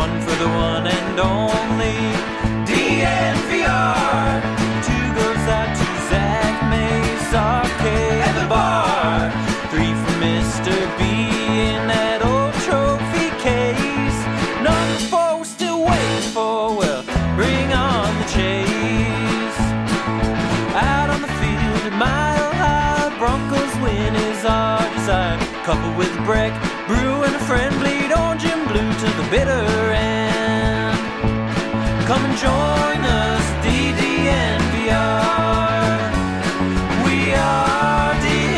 one for the one and only DNVR. Two goes out to Zach Mays, RK at the bar. Three for Mr. B in that old trophy case. Number four we're still waiting for, well, bring on the chase. Out on the field at Mile High, Broncos win is our desire. Coupled with Breck, Brew and a friend, bleed orange and blue to the bitter end. Come and join us, DNVR. We are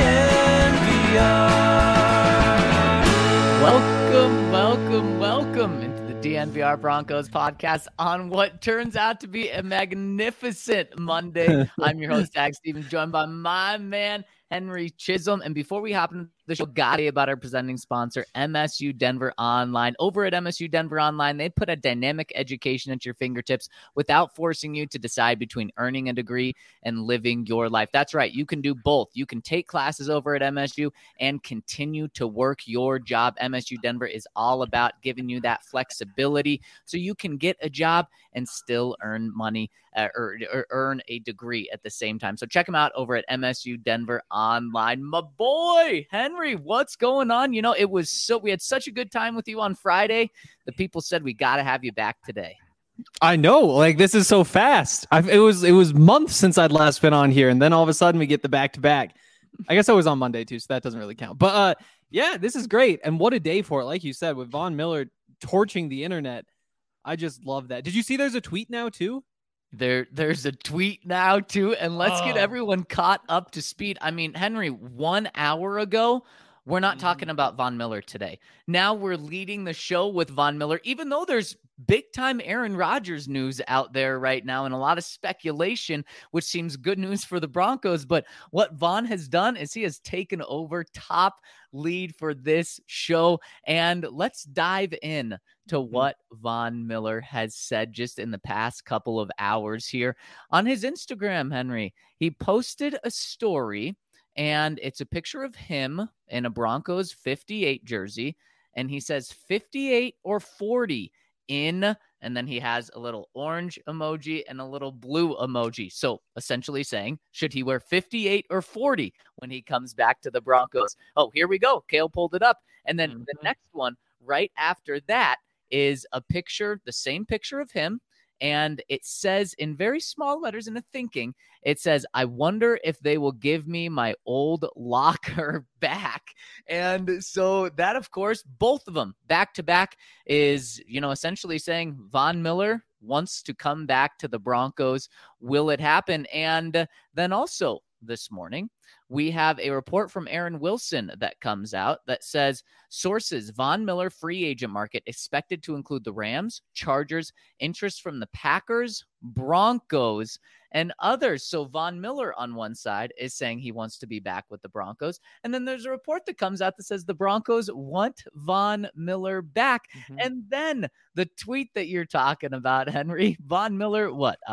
DNVR. Welcome into the DNVR Broncos podcast on what turns out to be a magnificent Monday. I'm your host, Zach Stevens, joined by my man, Henry Chisholm. And before we hop into the show, got about our presenting sponsor, MSU Denver Online. Over at MSU Denver Online, they put a dynamic education at your fingertips without forcing you to decide between earning a degree and living your life. That's right. You can do both. You can take classes over at MSU and continue to work your job. MSU Denver is all about giving you that flexibility so you can get a job and still earn money or earn a degree at the same time. So check them out over at MSU Denver Online. My boy, Henry, what's going on? You know, we had such a good time with you on Friday. The people said we got to have you back today. I know, like, this is so fast. It was months since I'd last been on here, and then all of a sudden we get the back-to-back. I guess I was on Monday too, so that doesn't really count. But yeah, this is great, and what a day for it. Like you said, with Von Miller torching the internet, I just love that. Did you see there's a tweet now too? There's a tweet now too, and let's get everyone caught up to speed. I mean, Henry, 1 hour ago, we're not talking about Von Miller today. Now we're leading the show with Von Miller, even though there's big-time Aaron Rodgers news out there right now and a lot of speculation, which seems good news for the Broncos. But what Von has done is he has taken over top lead for this show. And let's dive in to what Von Miller has said just in the past couple of hours here on his Instagram, Henry. He posted a story, and it's a picture of him in a Broncos 58 jersey. And he says 58 or 40 in, and then he has a little orange emoji and a little blue emoji. So essentially saying, should he wear 58 or 40 when he comes back to the Broncos? Oh, here we go. Kale pulled it up. And then the next one right after that is a picture, the same picture of him. And it says in very small letters in the thinking, it says, I wonder if they will give me my old locker back. And so that, of course, both of them back to back is, essentially saying Von Miller wants to come back to the Broncos. Will it happen? And then also this morning, we have a report from Aaron Wilson that comes out that says sources, Von Miller free agent market expected to include the Rams, Chargers, interest from the Packers, Broncos, and others. So Von Miller on one side is saying he wants to be back with the Broncos. And then there's a report that comes out that says the Broncos want Von Miller back. And then the tweet that you're talking about, Henry, Von Miller,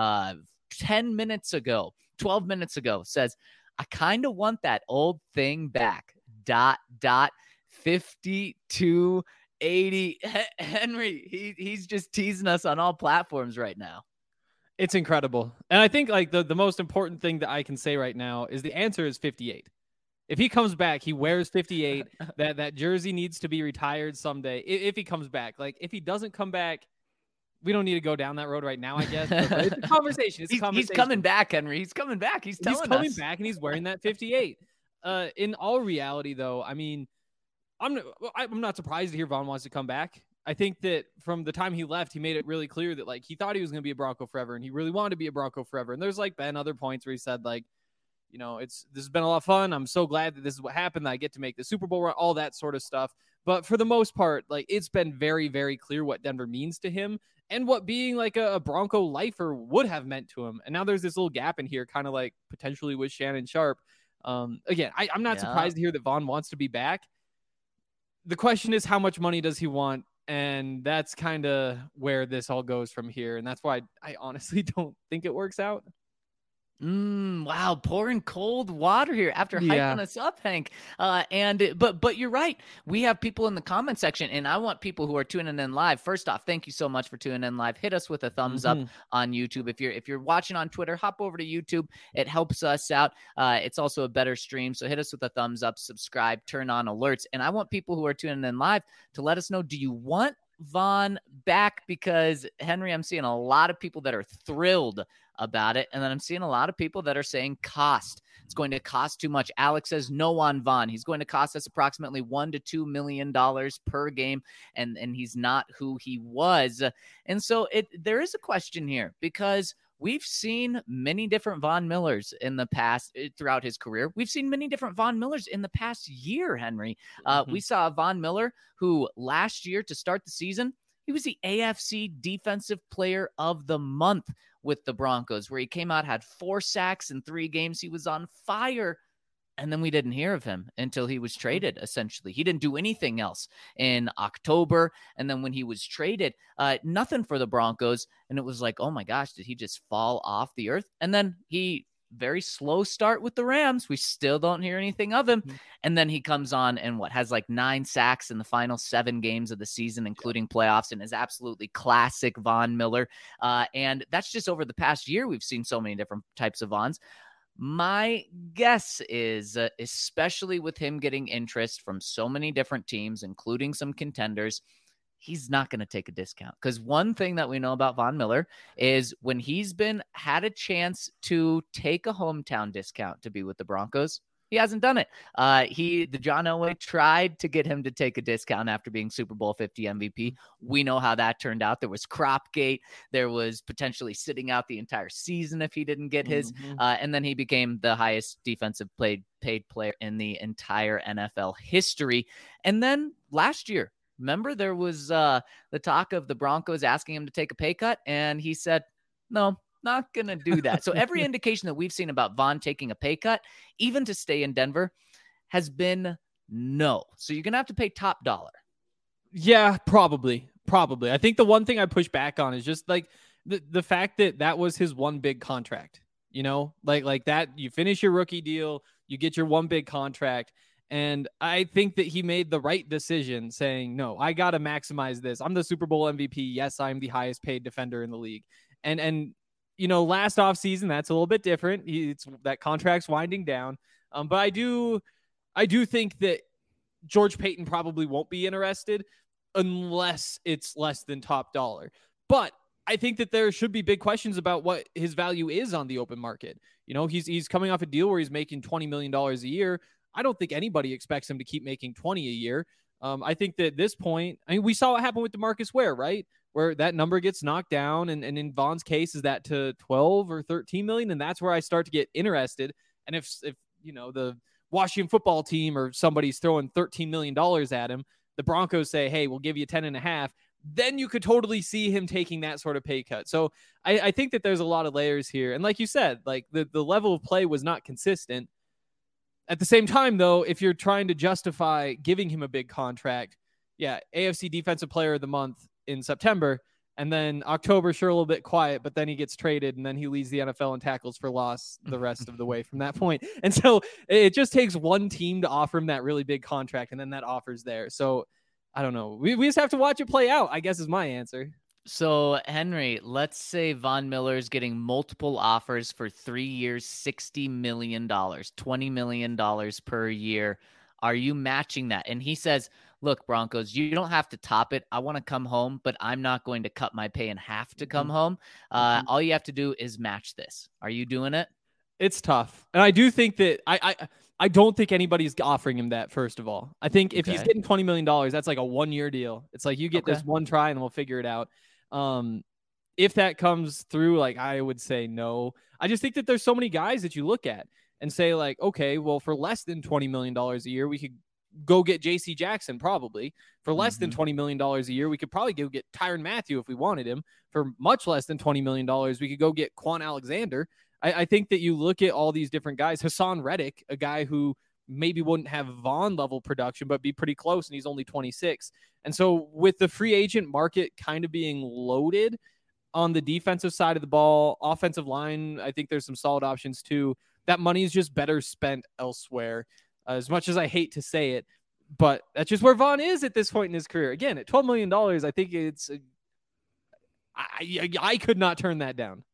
12 minutes ago, says, I kind of want that old thing back. ... 5280. Henry, he's just teasing us on all platforms right now. It's incredible. And I think like the most important thing that I can say right now is the answer is 58. If he comes back, he wears 58. that jersey needs to be retired someday. If he comes back, like if he doesn't come back, we don't need to go down that road right now, I guess. But it's a conversation. He's coming back, Henry. He's coming back. He's coming back, and he's wearing that 58. In all reality, though, I mean, I'm not surprised to hear Von wants to come back. I think that from the time he left, he made it really clear that like he thought he was going to be a Bronco forever, and he really wanted to be a Bronco forever. And there's like been other points where he said like, this has been a lot of fun. I'm so glad that this is what happened. That I get to make the Super Bowl run, all that sort of stuff. But for the most part, like it's been very, very clear what Denver means to him and what being like a Bronco lifer would have meant to him. And now there's this little gap in here, kind of like potentially with Shannon Sharpe. Again, I'm not surprised to hear that Von wants to be back. The question is, how much money does he want? And that's kind of where this all goes from here. And that's why I honestly don't think it works out. Wow, pouring cold water here after Yeah. hyping us up, Hank. But you're right. We have people in the comment section, and I want people who are tuning in live. First off, thank you so much for tuning in live. Hit us with a thumbs up on YouTube. If you're watching on Twitter, hop over to YouTube. It helps us out. It's also a better stream, so hit us with a thumbs up, subscribe, turn on alerts. And I want people who are tuning in live to let us know, do you want Von back? Because Henry, I'm seeing a lot of people that are thrilled about it, and then I'm seeing a lot of people that are saying cost. It's going to cost too much. Alex says no on Von. He's going to cost us approximately $1 to $2 million per game, and he's not who he was. And so there is a question here, because we've seen many different Von Millers in the past throughout his career. We've seen many different Von Millers in the past year, Henry. We saw a Von Miller who last year, to start the season, he was the AFC Defensive Player of the Month with the Broncos, where he came out, had 4 sacks in 3 games. He was on fire. And then we didn't hear of him until he was traded, essentially. He didn't do anything else in October. And then when he was traded, nothing for the Broncos. And it was like, oh my gosh, did he just fall off the earth? And then very slow start with the Rams. We still don't hear anything of him. And then he comes on and has like 9 sacks in the final 7 games of the season, including playoffs, and is absolutely classic Von Miller. And that's just over the past year. We've seen so many different types of Vons. My guess is, especially with him getting interest from so many different teams, including some contenders, he's not going to take a discount. Because one thing that we know about Von Miller is when he's had a chance to take a hometown discount to be with the Broncos, he hasn't done it. The John Elway tried to get him to take a discount after being Super Bowl 50 MVP. We know how that turned out. There was Cropgate. There was potentially sitting out the entire season if he didn't get his. And then he became the highest defensive paid player in the entire NFL history. And then last year, remember, there was the talk of the Broncos asking him to take a pay cut, and he said, no, not going to do that. So every indication that we've seen about Von taking a pay cut, even to stay in Denver, has been no. So you're going to have to pay top dollar. Yeah, probably. I think the one thing I push back on is just like the fact that was his one big contract, like that. You finish your rookie deal, you get your one big contract. And I think that he made the right decision saying, no, I got to maximize this. I'm the Super Bowl MVP. Yes, I'm the highest paid defender in the league. And last offseason, that's a little bit different. That contract's winding down. But I do think that George Paton probably won't be interested unless it's less than top dollar. But I think that there should be big questions about what his value is on the open market. He's coming off a deal where he's making $20 million a year. I don't think anybody expects him to keep making 20 a year. I think that at this point, we saw what happened with DeMarcus Ware, right? Where that number gets knocked down. And in Von's case, is that to 12 or 13 million? And that's where I start to get interested. And if the Washington football team or somebody's throwing $13 million at him, the Broncos say, hey, we'll give you 10.5. Then you could totally see him taking that sort of pay cut. So I think that there's a lot of layers here. And like you said, like the level of play was not consistent. At the same time, though, if you're trying to justify giving him a big contract, AFC Defensive Player of the Month in September, and then October, sure, a little bit quiet, but then he gets traded, and then he leads the NFL in tackles for loss the rest of the way from that point. And so it just takes one team to offer him that really big contract, and then that offer's there. So I don't know. We just have to watch it play out, I guess, is my answer. So, Henry, let's say Von Miller's getting multiple offers for 3 years, $60 million, $20 million per year. Are you matching that? And he says, look, Broncos, you don't have to top it. I want to come home, but I'm not going to cut my pay in half to come home. All you have to do is match this. Are you doing it? It's tough. And I do think that I don't think anybody's offering him that, first of all. I think if he's getting $20 million, that's like a 1-year deal. It's like you get this one try and we'll figure it out. If that comes through, like, I would say no. I just think that there's so many guys that you look at and say, like, okay, well, for less than $20 million a year, we could go get J.C. Jackson probably. For less than $20 million a year, we could probably go get Tyrann Mathieu if we wanted him. For much less than $20 million, we could go get Quan Alexander. I think that you look at all these different guys. Hassan Reddick, a guy who maybe wouldn't have Von level production, but be pretty close, and he's only 26. And so with the free agent market kind of being loaded, on the defensive side of the ball. Offensive line, I think there's some solid options too. That money is just better spent elsewhere. As much as I hate to say it, but that's just where Vaughn is at this point in his career. Again, at $12 million, I think it's I could not turn that down.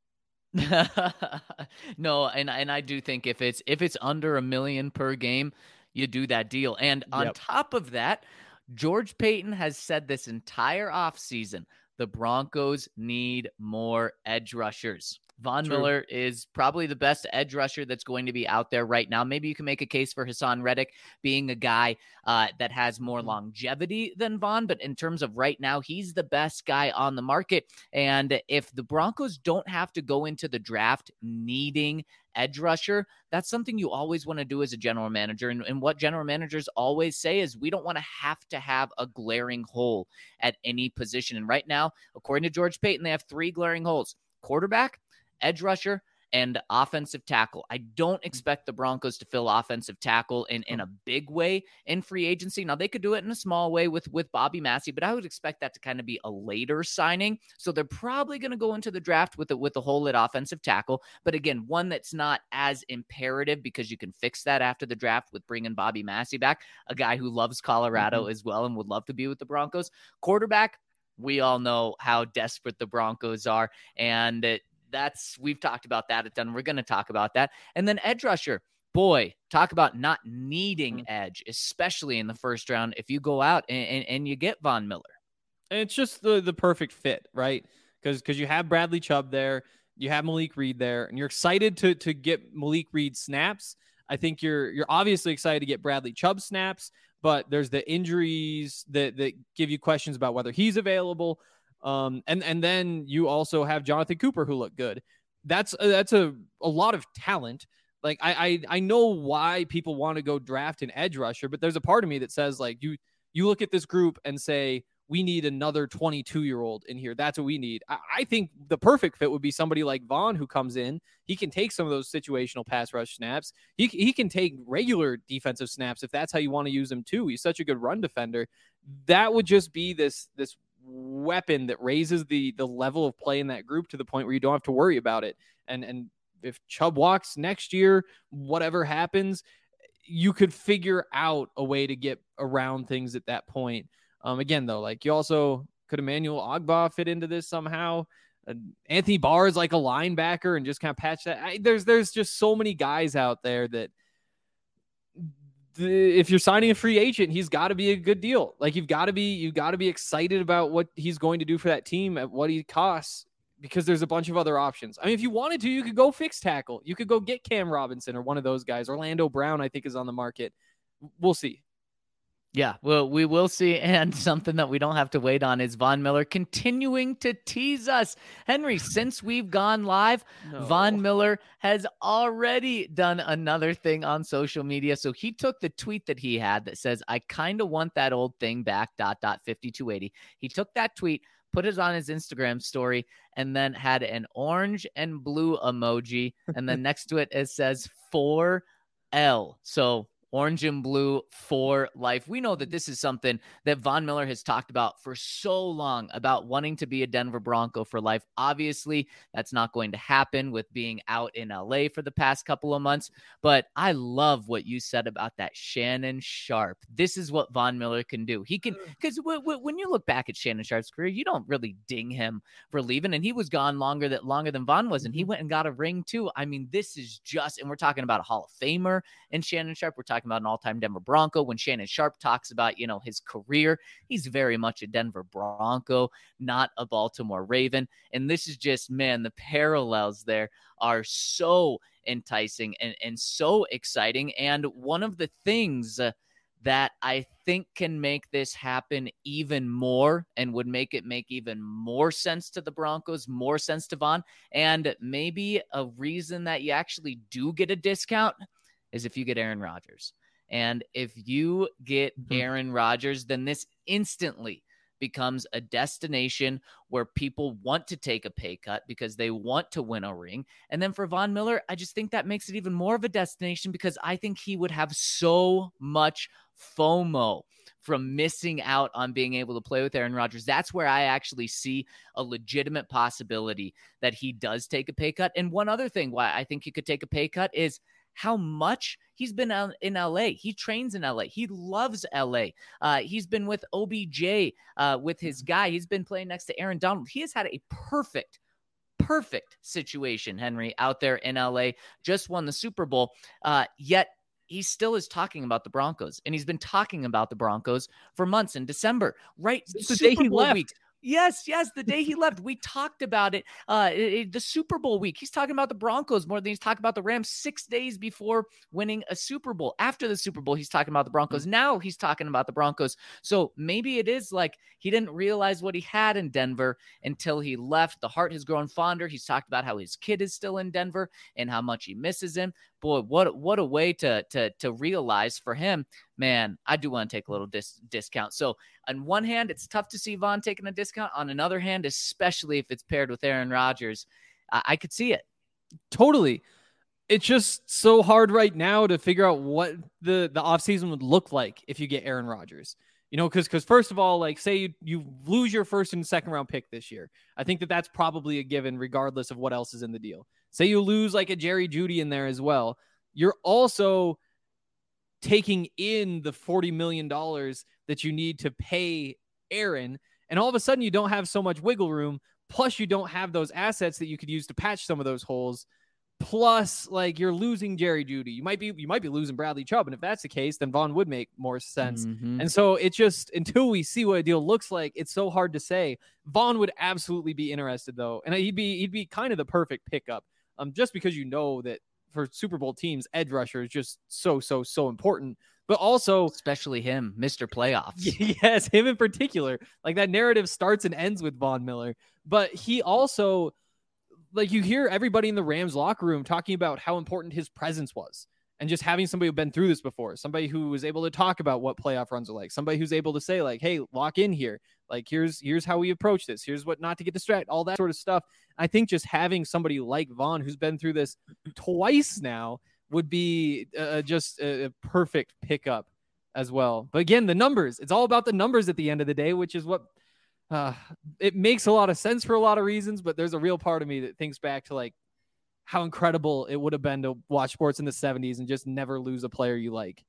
No, and I do think if it's under $1 million per game, you do that deal. And on top of that, George Paton has said this entire offseason, the Broncos need more edge rushers. Von Miller is probably the best edge rusher that's going to be out there right now. Maybe you can make a case for Hassan Reddick being a guy that has more longevity than Von, but in terms of right now, he's the best guy on the market. And if the Broncos don't have to go into the draft needing edge rusher, that's something you always want to do as a general manager. And what general managers always say is we don't want to have a glaring hole at any position. And right now, according to George Paton, they have 3 glaring holes: quarterback, edge rusher, and offensive tackle. I don't expect the Broncos to fill offensive tackle in a big way in free agency. Now, they could do it in a small way with Bobby Massey, but I would expect that to kind of be a later signing. So they're probably going to go into the draft with a hole at offensive tackle. But again, one that's not as imperative because you can fix that after the draft with bringing Bobby Massey back, a guy who loves Colorado as well and would love to be with the Broncos. Quarterback, we all know how desperate the Broncos are, and we've talked about that a ton. We're going to talk about that. And then edge rusher, boy, talk about not needing edge, especially in the first round. If you go out and you get Von Miller, and it's just the perfect fit, right? Because you have Bradley Chubb there, you have Malik Reed there, and you're excited to get Malik Reed snaps. I think you're obviously excited to get Bradley Chubb snaps, but there's the injuries that give you questions about whether he's available. And then you also have Jonathan Cooper, who looked good. That's a lot of talent. Like I know why people want to go draft an edge rusher, but there's a part of me that says, like, you look at this group and say, we need another 22-year-old in here. That's what we need. I think the perfect fit would be somebody like Vaughn, who comes in. He can take some of those situational pass rush snaps. He can take regular defensive snaps if that's how you want to use him too. He's such a good run defender. That would just be this weapon that raises the level of play in that group to the point where you don't have to worry about it. And if Chubb walks next year, whatever happens, you could figure out a way to get around things at that point. Again, though, like, you also could Emmanuel Ogbah fit into this somehow. Anthony Barr is like a linebacker and just kind of patch that. There's just so many guys out there that if you're signing a free agent, he's got to be a good deal. Like, you've got to be excited about what he's going to do for that team at what he costs, because there's a bunch of other options. I mean, if you wanted to, you could go fix tackle. You could go get Cam Robinson or one of those guys. Orlando Brown, I think, is on the market. We'll see. Yeah, well, we will see. And something that we don't have to wait on is Von Miller continuing to tease us. Henry, since we've gone live, Von Miller has already done another thing on social media. So he took the tweet that he had that says, I kind of want that old thing back, ... 5280. He took that tweet, put it on his Instagram story, and then had an orange and blue emoji. And then next to it says 4L. So orange and blue for life. We know that this is something that Von Miller has talked about for so long, about wanting to be a Denver Bronco for life. Obviously, that's not going to happen with being out in LA for the past couple of months, but I love what you said about that Shannon Sharpe. This is what Von Miller can do. He can, because when you look back at Shannon Sharpe's career, you don't really ding him for leaving, and he was gone longer than Von was, and he went and got a ring too. I mean, this is just, and we're talking about a Hall of Famer in Shannon Sharpe. We're talking about an all-time Denver Bronco. When Shannon Sharpe talks about, his career, he's very much a Denver Bronco, not a Baltimore Raven. And this is just, man, the parallels there are so enticing and so exciting. And one of the things that I think can make this happen even more and would make even more sense to the Broncos, more sense to Von, and maybe a reason that you actually do get a discount is if you get Aaron Rodgers. And if you get Aaron Rodgers, then this instantly becomes a destination where people want to take a pay cut because they want to win a ring. And then for Von Miller, I just think that makes it even more of a destination because I think he would have so much FOMO from missing out on being able to play with Aaron Rodgers. That's where I actually see a legitimate possibility that he does take a pay cut. And one other thing why I think he could take a pay cut is how much he's been in LA. He trains in LA. He loves LA. He's been with OBJ, with his guy. He's been playing next to Aaron Donald. He has had a perfect situation, Henry, out there in LA. Just won the Super Bowl. Yet he still is talking about the Broncos, and he's been talking about the Broncos for months. In December, right? Since the day he left. Week. Yes, the day he left, we talked about it. The Super Bowl week, he's talking about the Broncos more than he's talking about the Rams 6 days before winning a Super Bowl. After the Super Bowl, he's talking about the Broncos. Now he's talking about the Broncos. So maybe it is like he didn't realize what he had in Denver until he left. The heart has grown fonder. He's talked about how his kid is still in Denver and how much he misses him. Boy, what a way to realize for him. Man, I do want to take a little discount. So on one hand, it's tough to see Von taking a discount. On another hand, especially if it's paired with Aaron Rodgers, I could see it. Totally. It's just so hard right now to figure out what the offseason would look like if you get Aaron Rodgers. You know, because first of all, like say you lose your first and second round pick this year. I think that's probably a given regardless of what else is in the deal. Say you lose like a Jerry Jeudy in there as well. You're also taking in the $40 million that you need to pay Aaron. And all of a sudden you don't have so much wiggle room. Plus you don't have those assets that you could use to patch some of those holes. Plus, like you're losing Jerry Jeudy. You might be losing Bradley Chubb. And if that's the case, then Von would make more sense. Mm-hmm. And so it's just until we see what a deal looks like, it's so hard to say. Von would absolutely be interested though. And he'd be kind of the perfect pickup. Just because you know that for Super Bowl teams, edge rusher is just so important, but also especially him, Mr. Playoffs. Yes, him in particular. Like that narrative starts and ends with Von Miller, but he also, like you hear everybody in the Rams locker room talking about how important his presence was. And just having somebody who's been through this before, somebody who was able to talk about what playoff runs are like, somebody who's able to say like, hey, lock in here. Like, here's how we approach this. Here's what not to get distracted, all that sort of stuff. I think just having somebody like Von, who's been through this twice now, would be just a perfect pickup as well. But again, the numbers, it's all about the numbers at the end of the day, which is what it makes a lot of sense for a lot of reasons. But there's a real part of me that thinks back to like how incredible it would have been to watch sports in the 70s and just never lose a player you like.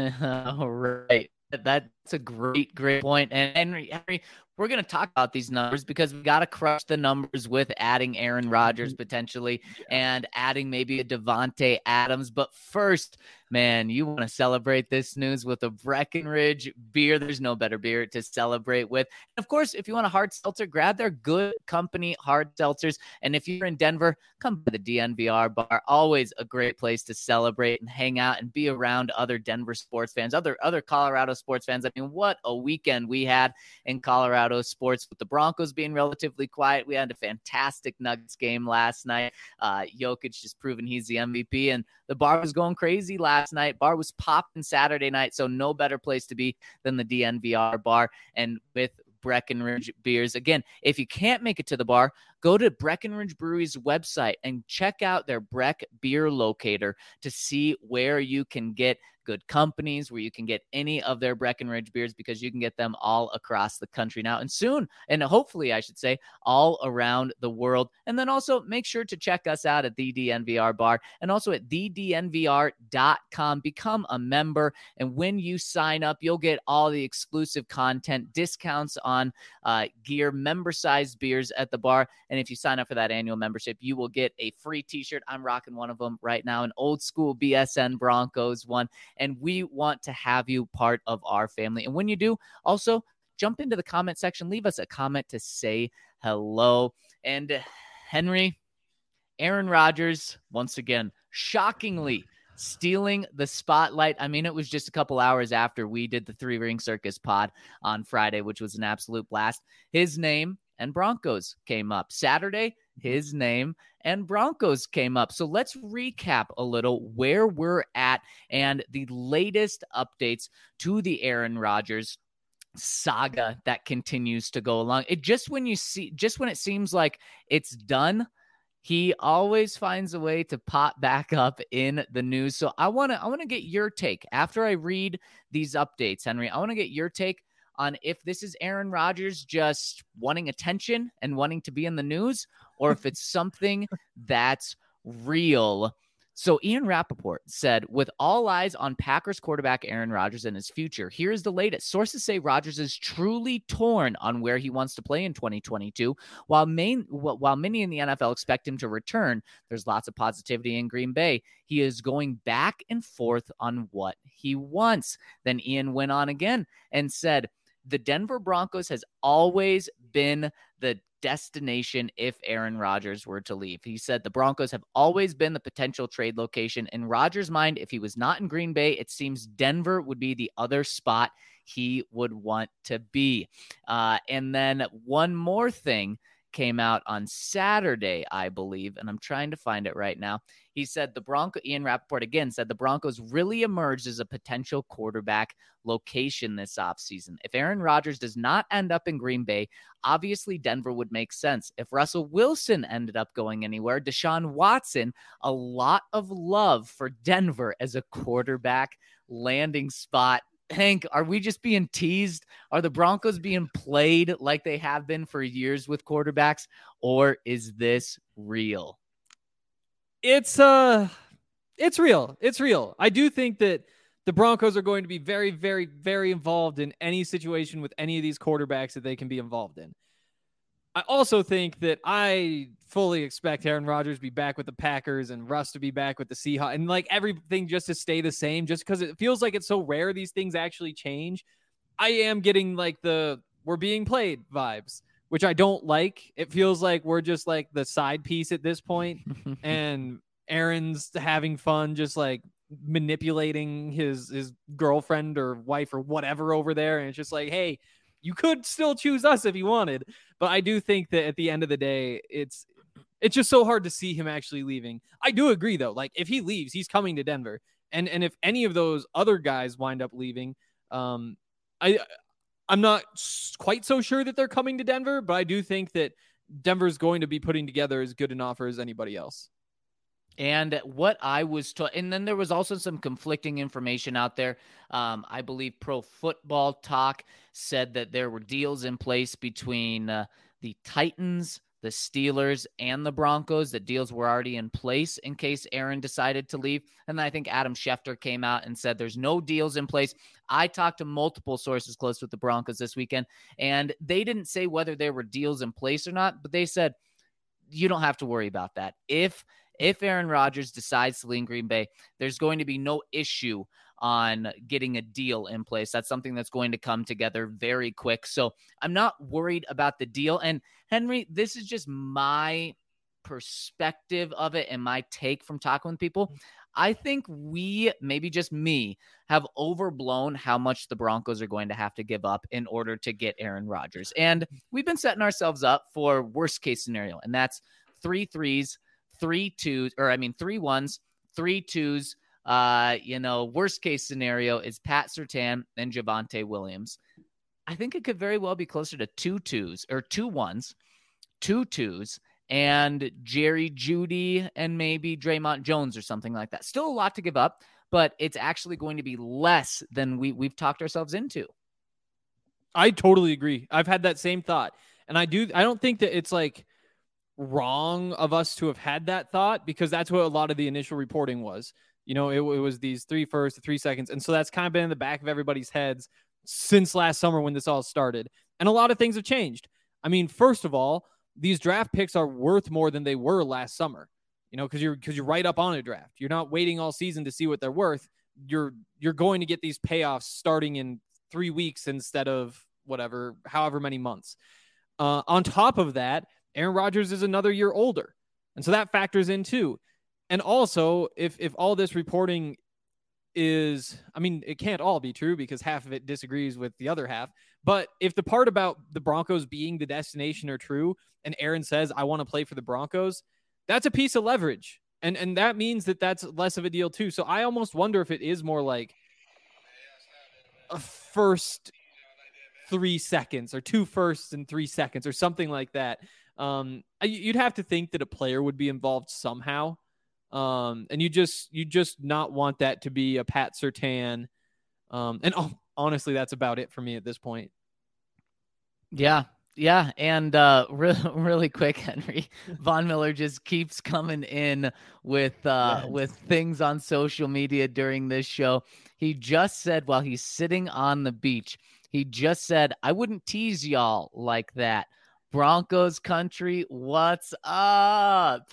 All right. That's a great point. And Henry, we're going to talk about these numbers because we got to crush the numbers with adding Aaron Rodgers potentially and adding maybe a Devontae Adams. But first, man, you want to celebrate this news with a Breckenridge beer. There's no better beer to celebrate with. And of course, if you want a hard seltzer, grab their Good Company hard seltzers. And if you're in Denver, come to the DNVR bar. Always a great place to celebrate and hang out and be around other Denver sports fans, other Colorado sports fans. I mean, what a weekend we had in Colorado sports with the Broncos being relatively quiet. We had a fantastic Nuggets game last night. Jokic just proving he's the MVP, and the bar was going crazy last night. Bar was popping Saturday night, so no better place to be than the DNVR bar. And with Breckenridge beers. Again, if you can't make it to the bar, go to Breckenridge Brewery's website and check out their Breck beer locator to see where you can get Good Companies, where you can get any of their Breckenridge beers, because you can get them all across the country now and soon, and hopefully I should say all around the world. And then also make sure to check us out at the DNVR bar and also at thednvr.com. Become a member, and when you sign up, you'll get all the exclusive content, discounts on gear, member-sized beers at the bar. And if you sign up for that annual membership, you will get a free t-shirt. I'm rocking one of them right now, an old school BSN Broncos one. And we want to have you part of our family. And when you do, also jump into the comment section, leave us a comment to say hello. And Henry, Aaron Rodgers, once again, shockingly stealing the spotlight. I mean, it was just a couple hours after we did the 3 Ring Circus pod on Friday, which was an absolute blast. His name and Broncos came up. Saturday, his name and Broncos came up. So let's recap a little where we're at and the latest updates to the Aaron Rodgers saga that continues to go along. It just when it seems like it's done, He always finds a way to pop back up in the news. So I want to get your take after I read these updates, Henry. I want to get your take on if this is Aaron Rodgers just wanting attention and wanting to be in the news, or if it's something that's real. So Ian Rappaport said, with all eyes on Packers quarterback Aaron Rodgers and his future, here's the latest. Sources say Rodgers is truly torn on where he wants to play in 2022. While many in the NFL expect him to return, there's lots of positivity in Green Bay. He is going back and forth on what he wants. Then Ian went on again and said, the Denver Broncos has always been the destination if Aaron Rodgers were to leave. He said the Broncos have always been the potential trade location. In Rodgers' mind, if he was not in Green Bay, it seems Denver would be the other spot he would want to be. And then one more thing came out on Saturday, I believe, and I'm trying to find it right now. He said Ian Rappaport again said the Broncos really emerged as a potential quarterback location this offseason. If Aaron Rodgers does not end up in Green Bay, obviously Denver would make sense. If Russell Wilson ended up going anywhere, Deshaun Watson, a lot of love for Denver as a quarterback landing spot. Hank, are we just being teased? Are the Broncos being played like they have been for years with quarterbacks, or is this real? It's real. It's real. I do think that the Broncos are going to be very, very, very involved in any situation with any of these quarterbacks that they can be involved in. I also think that I fully expect Aaron Rodgers to be back with the Packers and Russ to be back with the Seahawks and like everything just to stay the same, just because it feels like it's so rare these things actually change. I am getting like the we're being played vibes, which I don't like. It feels like we're just like the side piece at this point, and Aaron's having fun just like manipulating his girlfriend or wife or whatever over there. And it's just like, hey, you could still choose us if you wanted. But I do think that at the end of the day, it's just so hard to see him actually leaving. I do agree, though. Like, if he leaves, he's coming to Denver. And if any of those other guys wind up leaving, I'm not quite so sure that they're coming to Denver, but I do think that Denver's going to be putting together as good an offer as anybody else. And what I was taught, and then there was also some conflicting information out there. I believe Pro Football Talk said that there were deals in place between the Titans, the Steelers, and the Broncos. That deals were already in place in case Aaron decided to leave. And then I think Adam Schefter came out and said there's no deals in place. I talked to multiple sources close with the Broncos this weekend, and they didn't say whether there were deals in place or not, but they said you don't have to worry about that. If Aaron Rodgers decides to leave Green Bay, there's going to be no issue on getting a deal in place. That's something that's going to come together very quick. So I'm not worried about the deal. And Henry, this is just my perspective of it and my take from talking with people. I think we, maybe just me, have overblown how much the Broncos are going to have to give up in order to get Aaron Rodgers. And we've been setting ourselves up for worst case scenario. And that's 3 threes, 3 twos, or I mean 3 ones, 3 twos. Worst case scenario is Pat Surtain and Javonte Williams. I think it could very well be closer to 2 twos or 2 ones, 2 twos, and Jerry Jeudy and maybe Draymond Jones or something like that. Still a lot to give up, but it's actually going to be less than we've talked ourselves into. I totally agree. I've had that same thought. And I don't think that it's like wrong of us to have had that thought, because that's what a lot of the initial reporting was. You know, it was these 3 firsts, the 3 seconds. And so that's kind of been in the back of everybody's heads since last summer when this all started. And a lot of things have changed. I mean, first of all, these draft picks are worth more than they were last summer, you know, because you're right up on a draft. You're not waiting all season to see what they're worth. You're going to get these payoffs starting in 3 weeks instead of however many months. On top of that, Aaron Rodgers is another year older. And so that factors in too. And also, if all this reporting is, I mean, it can't all be true because half of it disagrees with the other half. But if the part about the Broncos being the destination are true, and Aaron says, I want to play for the Broncos, that's a piece of leverage. And that means that that's less of a deal too. So I almost wonder if it is more like a first 3 seconds or 2 firsts and 3 seconds or something like that. You'd have to think that a player would be involved somehow. And you just not want that to be a Pat Surtain. Honestly, that's about it for me at this point. Yeah. Yeah. And really quick, Henry, Von Miller just keeps coming in with things on social media during this show. He just said while he's sitting on the beach, he just said, "I wouldn't tease y'all like that. Broncos country, what's up?"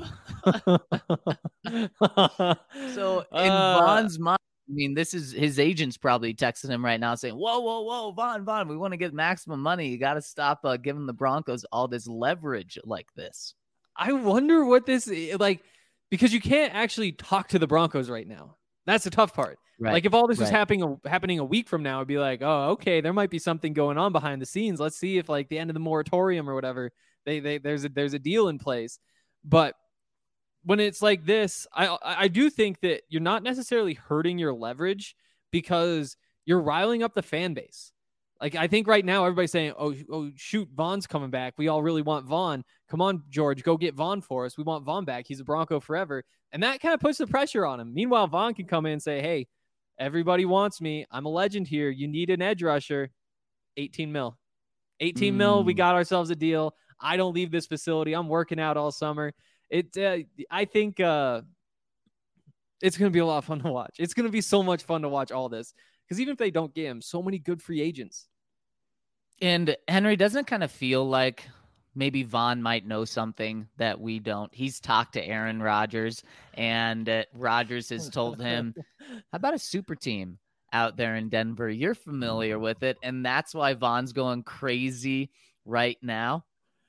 So in Von's mind, I mean, this is his agent's probably texting him right now saying, whoa, Von, we want to get maximum money. You got to stop giving the Broncos all this leverage like this. I wonder what this is like, because you can't actually talk to the Broncos right now. That's the tough part. Right. Like if all this was happening a week from now, it'd be like, oh, okay, there might be something going on behind the scenes. Let's see if like the end of the moratorium or whatever, there's a deal in place. But when it's like this, I do think that you're not necessarily hurting your leverage because you're riling up the fan base. Like I think right now everybody's saying, oh shoot, Von's coming back. We all really want Von. Come on, George, go get Von for us. We want Von back. He's a Bronco forever. And that kind of puts the pressure on him. Meanwhile, Von can come in and say, hey, everybody wants me. I'm a legend here. You need an edge rusher. 18 mil. 18 mil. We got ourselves a deal. I don't leave this facility. I'm working out all summer. I think it's going to be a lot of fun to watch. It's going to be so much fun to watch all this because even if they don't get him, so many good free agents. And Henry, doesn't it kind of feel like maybe Von might know something that we don't? He's talked to Aaron Rodgers, and Rodgers has told him, how about a super team out there in Denver? You're familiar with it, and that's why Von's going crazy right now.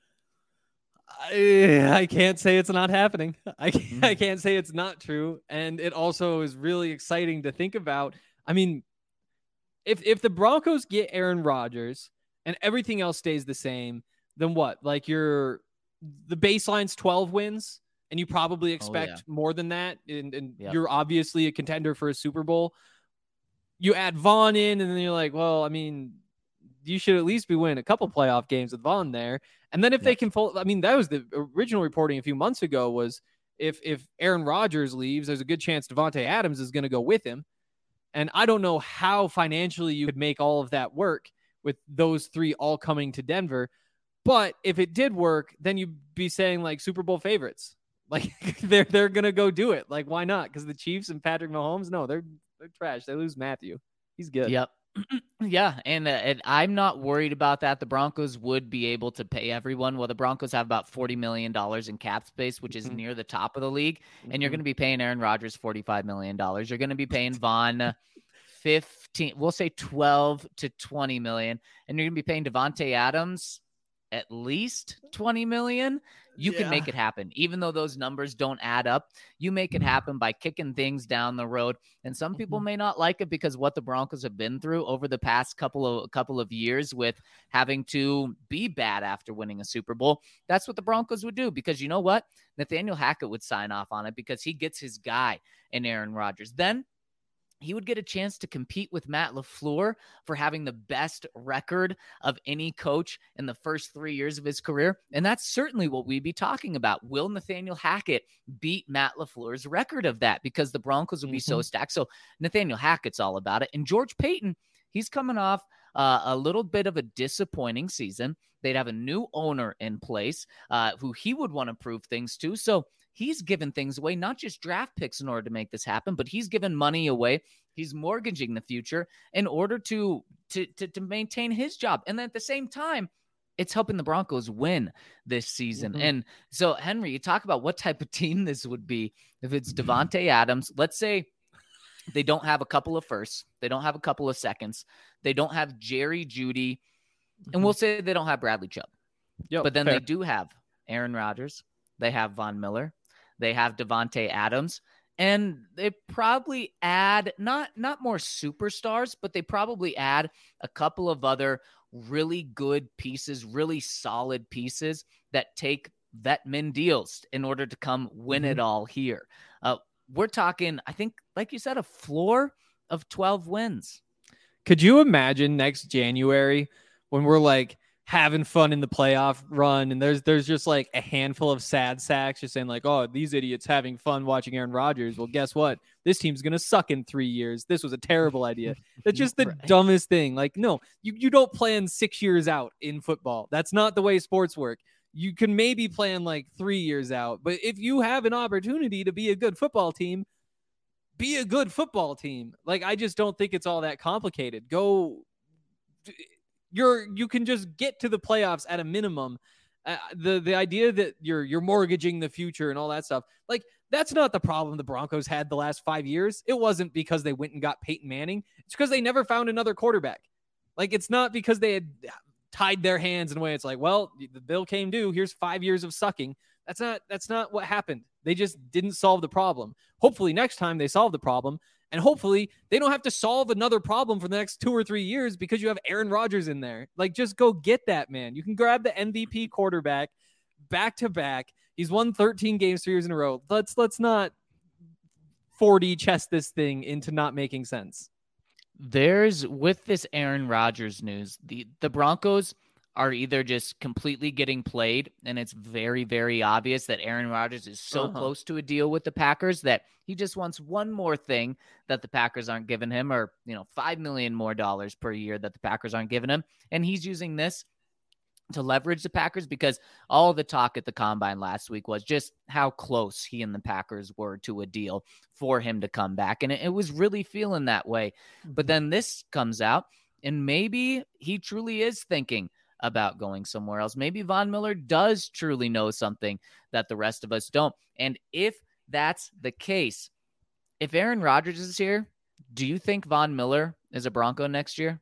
I can't say it's not happening. I can't say it's not true. And it also is really exciting to think about. I mean, if the Broncos get Aaron Rodgers and everything else stays the same, then what? Like the baseline's 12 wins and you probably expect more than that. And you're obviously a contender for a Super Bowl. You add Von in and then you're like, well, I mean, you should at least be winning a couple playoff games with Von there. And then if they can I mean, that was the original reporting a few months ago was if Aaron Rodgers leaves, there's a good chance Davante Adams is going to go with him. And I don't know how financially you could make all of that work with those three all coming to Denver. But if it did work, then you'd be saying like Super Bowl favorites. Like they're going to go do it. Like, why not? Because the Chiefs and Patrick Mahomes, no, they're trash. They lose Matthew. He's good. Yep. Yeah, and I'm not worried about that. The Broncos would be able to pay everyone. Well, the Broncos have about $40 million in cap space, which is near the top of the league, and you're going to be paying Aaron Rodgers $45 million. You're going to be paying Von 15, we'll say 12 to 20 million, and you're going to be paying Davante Adams at least 20 million. You can make it happen. Even though those numbers don't add up, you make it happen by kicking things down the road. And some people may not like it because what the Broncos have been through over the past couple of years with having to be bad after winning a Super Bowl. That's what the Broncos would do, because you know what? Nathaniel Hackett would sign off on it because he gets his guy in Aaron Rodgers. Then he would get a chance to compete with Matt LaFleur for having the best record of any coach in the first 3 years of his career. And that's certainly what we'd be talking about. Will Nathaniel Hackett beat Matt LaFleur's record of that? Because the Broncos would be so stacked. So Nathaniel Hackett's all about it. And George Paton, he's coming off a little bit of a disappointing season. They'd have a new owner in place who he would want to prove things to. So he's given things away, not just draft picks in order to make this happen, but he's given money away. He's mortgaging the future in order to maintain his job. And then at the same time, it's helping the Broncos win this season. And so, Henry, you talk about what type of team this would be if it's Davante Adams. Let's say they don't have a couple of firsts. They don't have a couple of seconds. They don't have Jerry Jeudy. And we'll say they don't have Bradley Chubb. But then they do have Aaron Rodgers. They have Von Miller. They have Davante Adams. And they probably add not more superstars, but they probably add a couple of other really good pieces, really solid pieces that take vet min deals in order to come win it all here. We're talking, I think, like you said, a floor of 12 wins. Could you imagine next January when we're like, having fun in the playoff run, and there's just like a handful of sad sacks just saying like, oh, these idiots having fun watching Aaron Rodgers. Well, guess what? This team's gonna suck in 3 years. This was a terrible idea. That's just the dumbest thing. Like, no, you don't plan 6 years out in football. That's not the way sports work. You can maybe plan like 3 years out, but if you have an opportunity to be a good football team, be a good football team. Like, I just don't think it's all that complicated. You can just get to the playoffs at a minimum. The idea that you're mortgaging the future and all that stuff, like, that's not the problem the Broncos had the last 5 years. It wasn't because they went and got Peyton Manning. It's because they never found another quarterback. Like, it's not because they had tied their hands in a way. It's like, well, the bill came due. Here's 5 years of sucking. That's not what happened. They just didn't solve the problem. Hopefully next time they solve the problem. And hopefully they don't have to solve another problem for the next 2 or 3 years because you have Aaron Rodgers in there. Like, just go get that, man. You can grab the MVP quarterback back to back. He's won 13 games 3 years in a row. Let's not 4D chess this thing into not making sense. With this Aaron Rodgers news, the Broncos are either just completely getting played, and it's very, very obvious that Aaron Rodgers is so close to a deal with the Packers that he just wants one more thing that the Packers aren't giving him, or, $5 million more per year that the Packers aren't giving him. And he's using this to leverage the Packers, because all the talk at the Combine last week was just how close he and the Packers were to a deal for him to come back. And it was really feeling that way. But then this comes out, and maybe he truly is thinking about going somewhere else. Maybe Von Miller does truly know something that the rest of us don't. And if that's the case, if Aaron Rodgers is here, do you think Von Miller is a Bronco next year?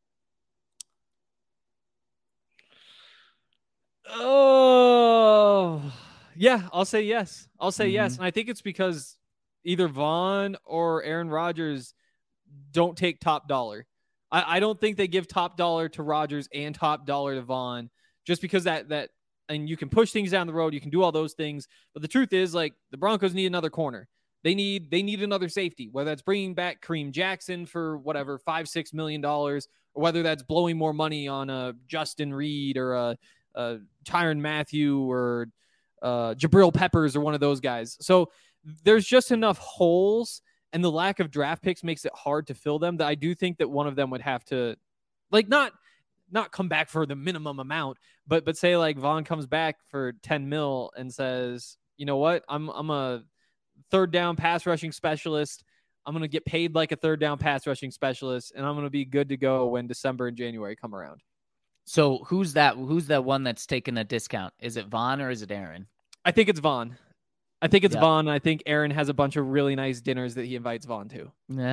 Oh, yeah, I'll say yes. Yes. And I think it's because either Von or Aaron Rodgers don't take top dollar. I don't think they give top dollar to Rodgers and top dollar to Von, just because that and you can push things down the road. You can do all those things. But the truth is, like, the Broncos need another corner. They need another safety, whether that's bringing back Kareem Jackson for whatever, $5-6 million, or whether that's blowing more money on a Justin Reed or a Tyrann Mathieu or Jabril Peppers or one of those guys. So there's just enough holes, and the lack of draft picks makes it hard to fill them, that I do think that one of them would have to, like, not come back for the minimum amount, but say like Von comes back for 10 mil and says, you know what, I'm a third down pass rushing specialist. I'm going to get paid like a third down pass rushing specialist, and I'm going to be good to go when December and January come around. So who's that one that's taking a discount? Is it Von or is it Aaron? I think it's Von. Von. I think Aaron has a bunch of really nice dinners that he invites Von to.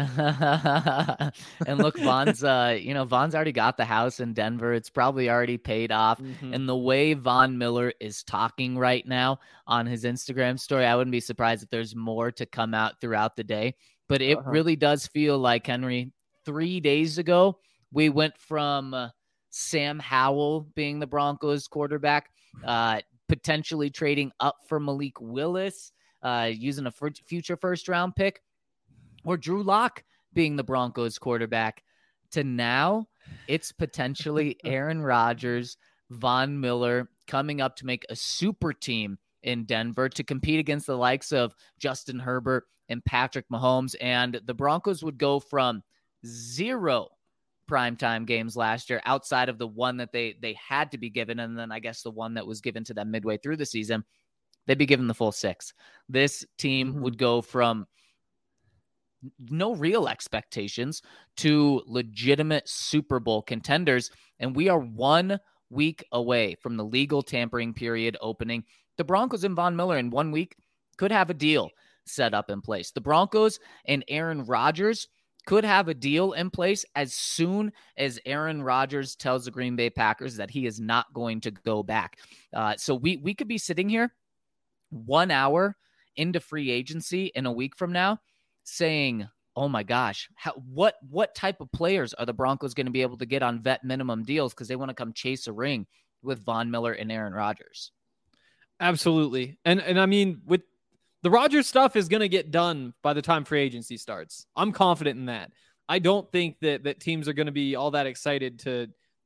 And look, Von's already got the house in Denver. It's probably already paid off. Mm-hmm. And the way Von Miller is talking right now on his Instagram story, I wouldn't be surprised if there's more to come out throughout the day. But it really does feel like, Henry, 3 days ago, we went from Sam Howell being the Broncos quarterback, potentially trading up for Malik Willis, using a future first-round pick, or Drew Lock being the Broncos quarterback, to now it's potentially Aaron Rodgers, Von Miller coming up to make a super team in Denver to compete against the likes of Justin Herbert and Patrick Mahomes. And the Broncos would go from 0 primetime games last year, outside of the one that they had to be given, and then I guess the one that was given to them midway through the season, they'd be given the full 6. This team would go from no real expectations to legitimate Super Bowl contenders, and we are 1 week away from the legal tampering period opening. The Broncos and Von Miller in 1 week could have a deal set up in place. The Broncos and Aaron Rodgers could have a deal in place as soon as Aaron Rodgers tells the Green Bay Packers that he is not going to go back. So we could be sitting here 1 hour into free agency in a week from now saying, oh my gosh, what type of players are the Broncos going to be able to get on vet minimum deals because they want to come chase a ring with Von Miller and Aaron Rodgers? Absolutely. And I mean, with the Rodgers stuff is going to get done by the time free agency starts. I'm confident in that. I don't think that teams are going to be all that excited to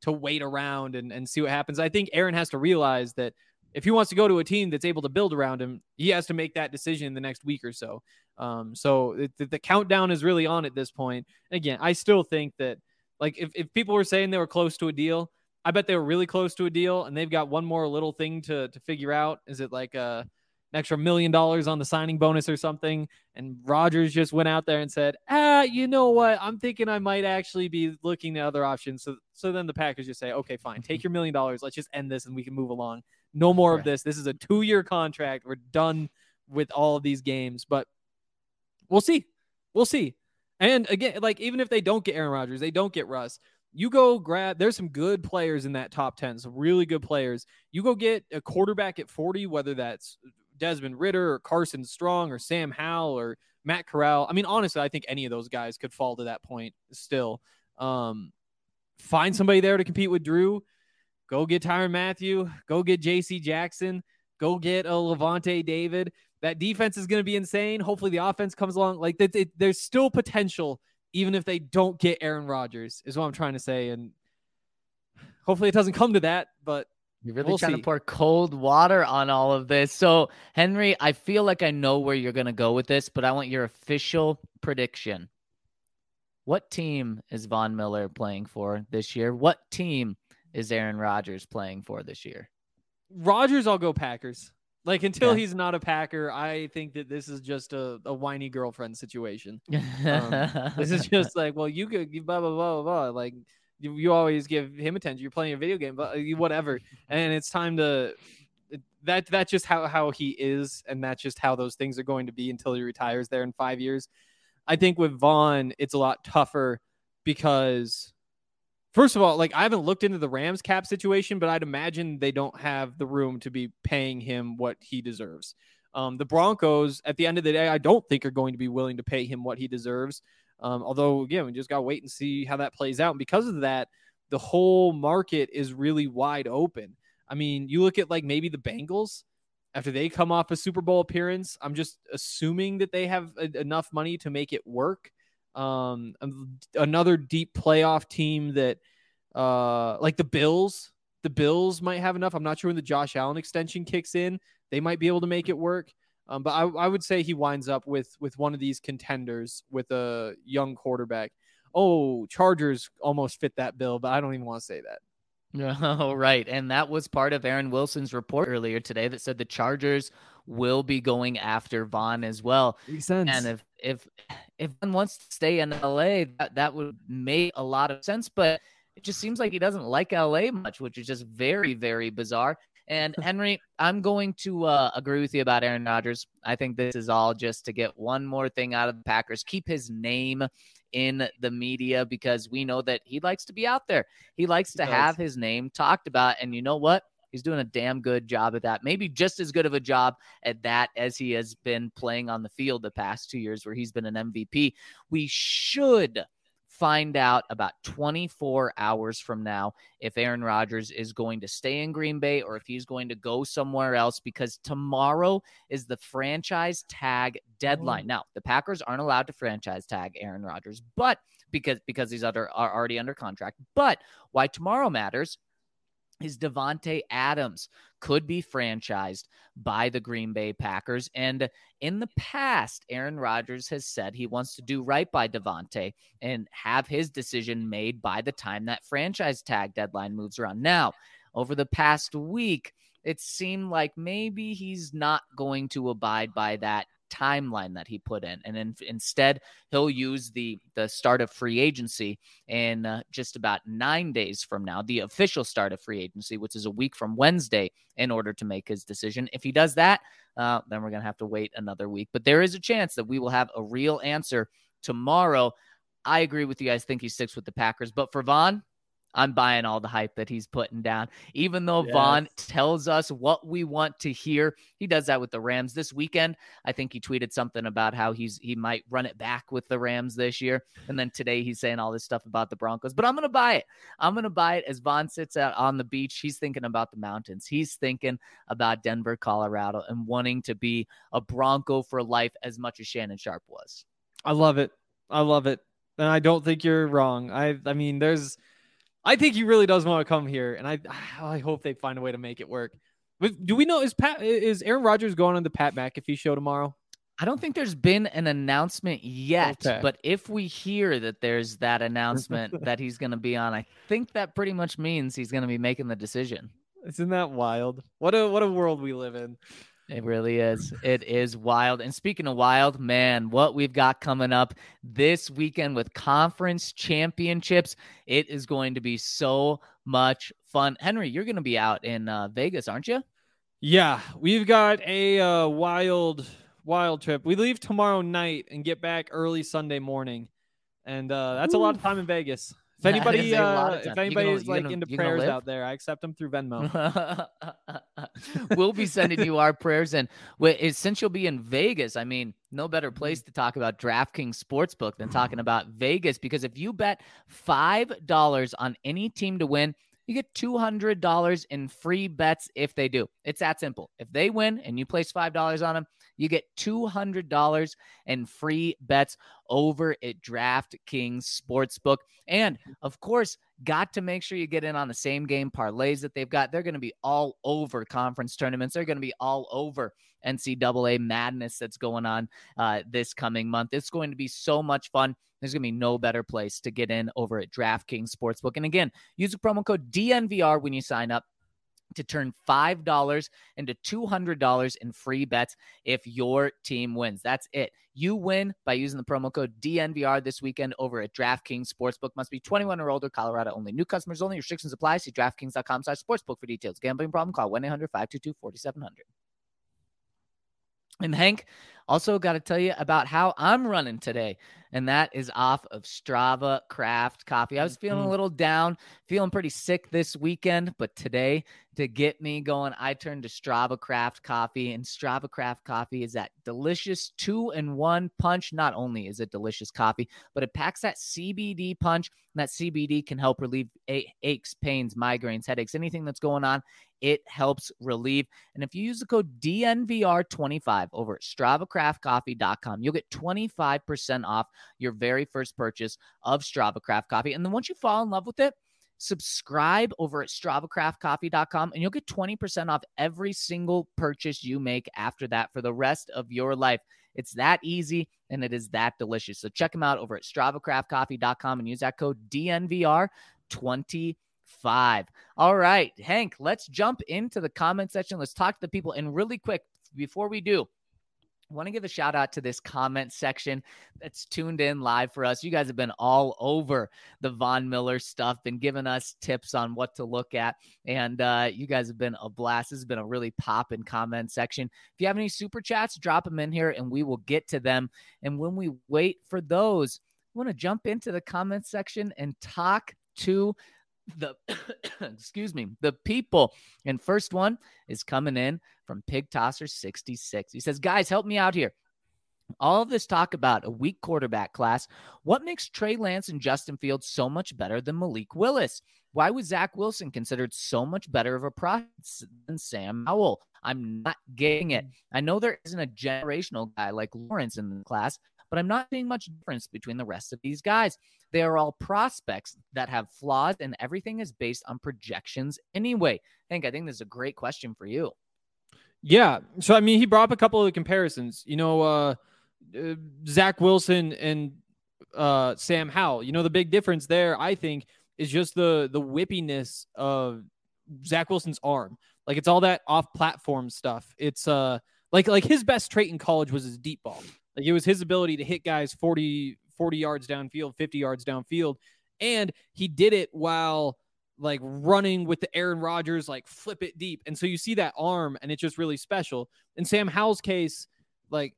wait around and see what happens. I think Aaron has to realize that if he wants to go to a team that's able to build around him, he has to make that decision in the next week or so. So the countdown is really on at this point. And again, I still think that, like, if people were saying they were close to a deal, I bet they were really close to a deal, and they've got one more little thing to figure out. Is it like an extra $1 million on the signing bonus or something? And Rodgers just went out there and said, you know what? I'm thinking I might actually be looking at other options. So then the Packers just say, okay, fine, take your $1 million. Let's just end this and we can move along. No more of this. This is a 2-year contract. We're done with all of these games, but we'll see. We'll see. And again, like, even if they don't get Aaron Rodgers, they don't get Russ, you go grab, there's some good players in that top 10, some really good players. You go get a quarterback at 40, whether that's Desmond Ridder or Carson Strong or Sam Howell or Matt Corral. I mean, honestly, I think any of those guys could fall to that point still. Find somebody there to compete with Drew. Go get Tyrann Mathieu. Go get J.C. Jackson. Go get a Levante David. That defense is going to be insane. Hopefully the offense comes along. Like, there's still potential, even if they don't get Aaron Rodgers, is what I'm trying to say. And hopefully it doesn't come to that, but you're really trying to pour cold water on all of this. So, Henry, I feel like I know where you're going to go with this, but I want your official prediction. What team is Von Miller playing for this year? What team is Aaron Rodgers playing for this year? Rodgers, I'll go Packers. Like, until he's not a Packer, I think that this is just a whiny girlfriend situation. This is just like, well, you could blah, blah, blah, blah. Like, you always give him attention. You're playing a video game, but whatever. And it's time to that's just how he is. And that's just how those things are going to be until he retires there in 5 years. I think with Vaughn, it's a lot tougher because, first of all, like, I haven't looked into the Rams cap situation, but I'd imagine they don't have the room to be paying him what he deserves. The Broncos, at the end of the day, I don't think are going to be willing to pay him what he deserves. Although, again, we just got to wait and see how that plays out. And because of that, the whole market is really wide open. I mean, you look at, like, maybe the Bengals, after they come off a Super Bowl appearance, I'm just assuming that they have enough money to make it work. Another deep playoff team that, like the Bills might have enough. I'm not sure when the Josh Allen extension kicks in, they might be able to make it work. But I would say he winds up with one of these contenders with a young quarterback. Oh, Chargers almost fit that bill, but I don't even want to say that. Oh, right. And that was part of Aaron Wilson's report earlier today that said the Chargers will be going after Vaughn as well. Makes sense. And if Vaughn wants to stay in LA, that would make a lot of sense, but it just seems like he doesn't like LA much, which is just very, very bizarre. And Henry, I'm going to agree with you about Aaron Rodgers. I think this is all just to get one more thing out of the Packers, keep his name in the media, because we know that he likes to be out there. He likes to have his name talked about. And you know what? He's doing a damn good job at that. Maybe just as good of a job at that as he has been playing on the field the past 2 years where he's been an MVP. We should find out about 24 hours from now if Aaron Rodgers is going to stay in Green Bay or if he's going to go somewhere else, because tomorrow is the franchise tag deadline. Now, the Packers aren't allowed to franchise tag Aaron Rodgers, but because he's already under contract. But why tomorrow matters is Davante Adams could be franchised by the Green Bay Packers. And in the past, Aaron Rodgers has said he wants to do right by Davante and have his decision made by the time that franchise tag deadline moves around. Now, over the past week, it seemed like maybe he's not going to abide by that timeline that he put in, and instead he'll use the start of free agency in just about 9 days from now, the official start of free agency, which is a week from Wednesday, in order to make his decision. If he does that, then we're gonna have to wait another week, but there is a chance that we will have a real answer tomorrow. I agree with you guys. Think he sticks with the Packers, but for Vaughn, I'm buying all the hype that he's putting down. Even though Vaughn tells us what we want to hear, he does that with the Rams this weekend. I think he tweeted something about how he might run it back with the Rams this year. And then today he's saying all this stuff about the Broncos. But I'm going to buy it. I'm going to buy it as Vaughn sits out on the beach. He's thinking about the mountains. He's thinking about Denver, Colorado, and wanting to be a Bronco for life as much as Shannon Sharpe was. I love it. I love it. And I don't think you're wrong. I mean, I think he really does want to come here, and I hope they find a way to make it work. But do we know is Aaron Rodgers going on the Pat McAfee show tomorrow? I don't think there's been an announcement yet, Okay. but if we hear that there's that announcement that he's going to be on, I think that pretty much means he's going to be making the decision. Isn't that wild? What a world we live in. It really is. It is wild. And speaking of wild, man, what we've got coming up this weekend with conference championships, it is going to be so much fun. Henry, you're going to be out in Vegas, aren't you? Yeah, we've got a wild trip. We leave tomorrow night and get back early Sunday morning, and that's a lot of time in Vegas. If anybody, is like into prayers out there, I accept them through Venmo. We'll be sending you our prayers, and since you'll be in Vegas, I mean, no better place to talk about DraftKings Sportsbook than talking about Vegas, because if you bet $5 on any team to win, you get $200 in free bets if they do. It's that simple. If they win and you place $5 on them, you get $200 in free bets over at DraftKings Sportsbook. And, of course, got to make sure you get in on the same game parlays that they've got. They're going to be all over conference tournaments. They're going to be all over NCAA madness that's going on this coming month. It's going to be so much fun. There's going to be no better place to get in over at DraftKings Sportsbook. And again, use the promo code DNVR when you sign up to turn $5 into $200 in free bets if your team wins. That's it. You win by using the promo code DNVR this weekend over at DraftKings Sportsbook. Must be 21 or older, Colorado only. New customers only. Restrictions apply. See DraftKings.com/sportsbook for details. Gambling problem? Call 1-800-522-4700. And Hank, also got to tell you about how I'm running today, and that is off of Strava Craft Coffee. I was feeling a little down, feeling pretty sick this weekend, but today, to get me going, I turned to Strava Craft Coffee, and Strava Craft Coffee is that delicious 2-in-1 punch. Not only is it delicious coffee, but it packs that CBD punch, and that CBD can help relieve aches, pains, migraines, headaches, anything that's going on. It helps relieve. And if you use the code DNVR25 over at StravaCraftCoffee.com, you'll get 25% off your very first purchase of Strava Craft Coffee. And then once you fall in love with it, subscribe over at StravaCraftCoffee.com, and you'll get 20% off every single purchase you make after that for the rest of your life. It's that easy, and it is that delicious. So check them out over at StravaCraftCoffee.com and use that code DNVR25. All right, Hank, let's jump into the comment section. Let's talk to the people. And really quick, before we do, I want to give a shout out to this comment section that's tuned in live for us. You guys have been all over the Von Miller stuff, been giving us tips on what to look at. And you guys have been a blast. This has been a really poppin' comment section. If you have any super chats, drop them in here and we will get to them. And when we wait for those, I want to jump into the comment section and talk to the the people. And first one is coming in from Pig Tosser 66. He says, guys, help me out here. All of this talk about a weak quarterback class, what makes Trey Lance and Justin Fields so much better than Malik Willis? Why was Zach Wilson considered so much better of a prospect than Sam Howell? I'm not getting it. I know there isn't a generational guy like Lawrence in the class, but I'm not seeing much difference between the rest of these guys. They are all prospects that have flaws, and everything is based on projections anyway. Hank, I think this is a great question for you. Yeah. So, I mean, he brought up a couple of the comparisons. Zach Wilson and Sam Howell. The big difference there, I think, is just the whippiness of Zach Wilson's arm. Like, it's all that off-platform stuff. It's like his best trait in college was his deep ball. Like, it was his ability to hit guys 40 yards downfield, 50 yards downfield. And he did it while like running with the Aaron Rodgers, like flip it deep. And so you see that arm and it's just really special. In Sam Howell's case, like,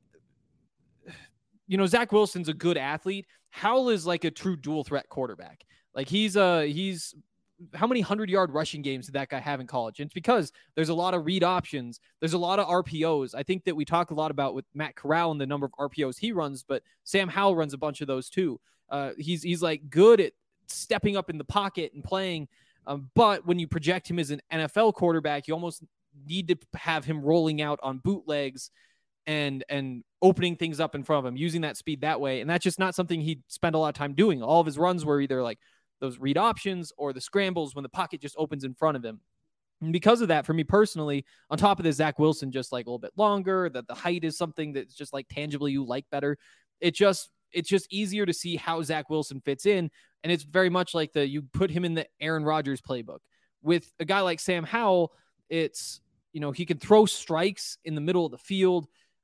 Zach Wilson's a good athlete. Howell is like a true dual threat quarterback. Like he's how many 100-yard rushing games did that guy have in college? And it's because there's a lot of read options. There's a lot of RPOs. I think that we talk a lot about with Matt Corral and the number of RPOs he runs, but Sam Howell runs a bunch of those too. He's like good at stepping up in the pocket and playing. But when you project him as an NFL quarterback, you almost need to have him rolling out on bootlegs and opening things up in front of him, using that speed that way. And that's just not something he spent a lot of time doing. All of his runs were either like those read options or the scrambles when the pocket just opens in front of him. And because of that, for me personally, on top of this, Zach Wilson just like a little bit longer, that the height is something that's just like tangibly you like better. It's just easier to see how Zach Wilson fits in. And it's very much like you put him in the Aaron Rodgers playbook. With a guy like Sam Howell, it's, he can throw strikes in the middle of the field.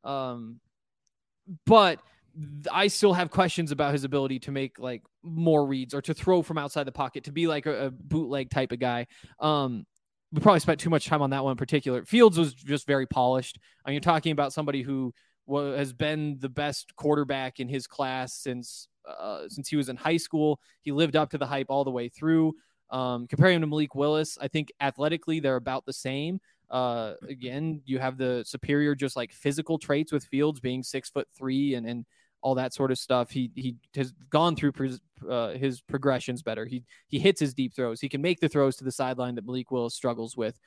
But I still have questions about his ability to make like more reads or to throw from outside the pocket, to be like a bootleg type of guy. We probably spent too much time on that one in particular. Fields was just very polished. I mean, you're talking about somebody who has been the best quarterback in his class since he was in high school. He lived up to the hype all the way through. Comparing him to Malik Willis, I think athletically they're about the same. Again, you have the superior just like physical traits with Fields being 6'3" and all that sort of stuff. He has gone through his progressions better. He hits his deep throws. He can make the throws to the sideline that Malik Willis struggles with.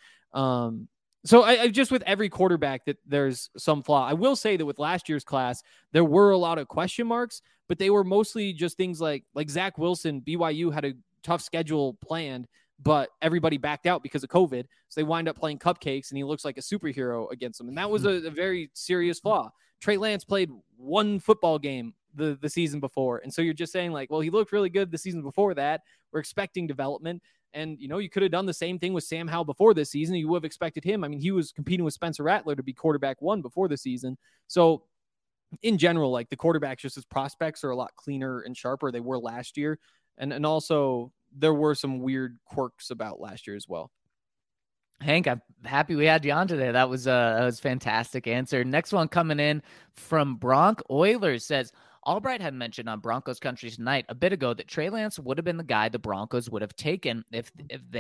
So I just, with every quarterback, that there's some flaw. I will say that with last year's class, there were a lot of question marks, but they were mostly just things like Zach Wilson. BYU had a tough schedule planned, but everybody backed out because of COVID. So they wind up playing cupcakes and he looks like a superhero against them. And that was a very serious flaw. Trey Lance played one football game the season before. And so you're just saying like, well, he looked really good the season before that. We're expecting development. And, you could have done the same thing with Sam Howell before this season. You would have expected him. I mean, he was competing with Spencer Rattler to be quarterback one before the season. So in general, like the quarterbacks, just as prospects, are a lot cleaner and sharper they were last year. And also there were some weird quirks about last year as well. Hank, I'm happy we had you on today. That was a fantastic answer. Next one coming in from Bronc Oilers says, Albright had mentioned on Broncos Country tonight a bit ago that Trey Lance would have been the guy the Broncos would have taken if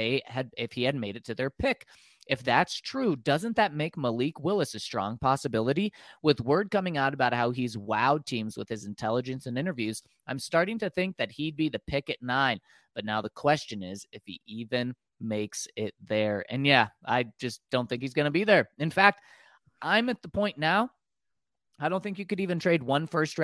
he had made it to their pick. If that's true, doesn't that make Malik Willis a strong possibility? With word coming out about how he's wowed teams with his intelligence and interviews, I'm starting to think that he'd be the pick at 9. But now the question is if he even makes it there. And yeah, I just don't think he's going to be there. In fact, I'm at the point now, I don't think you could even trade one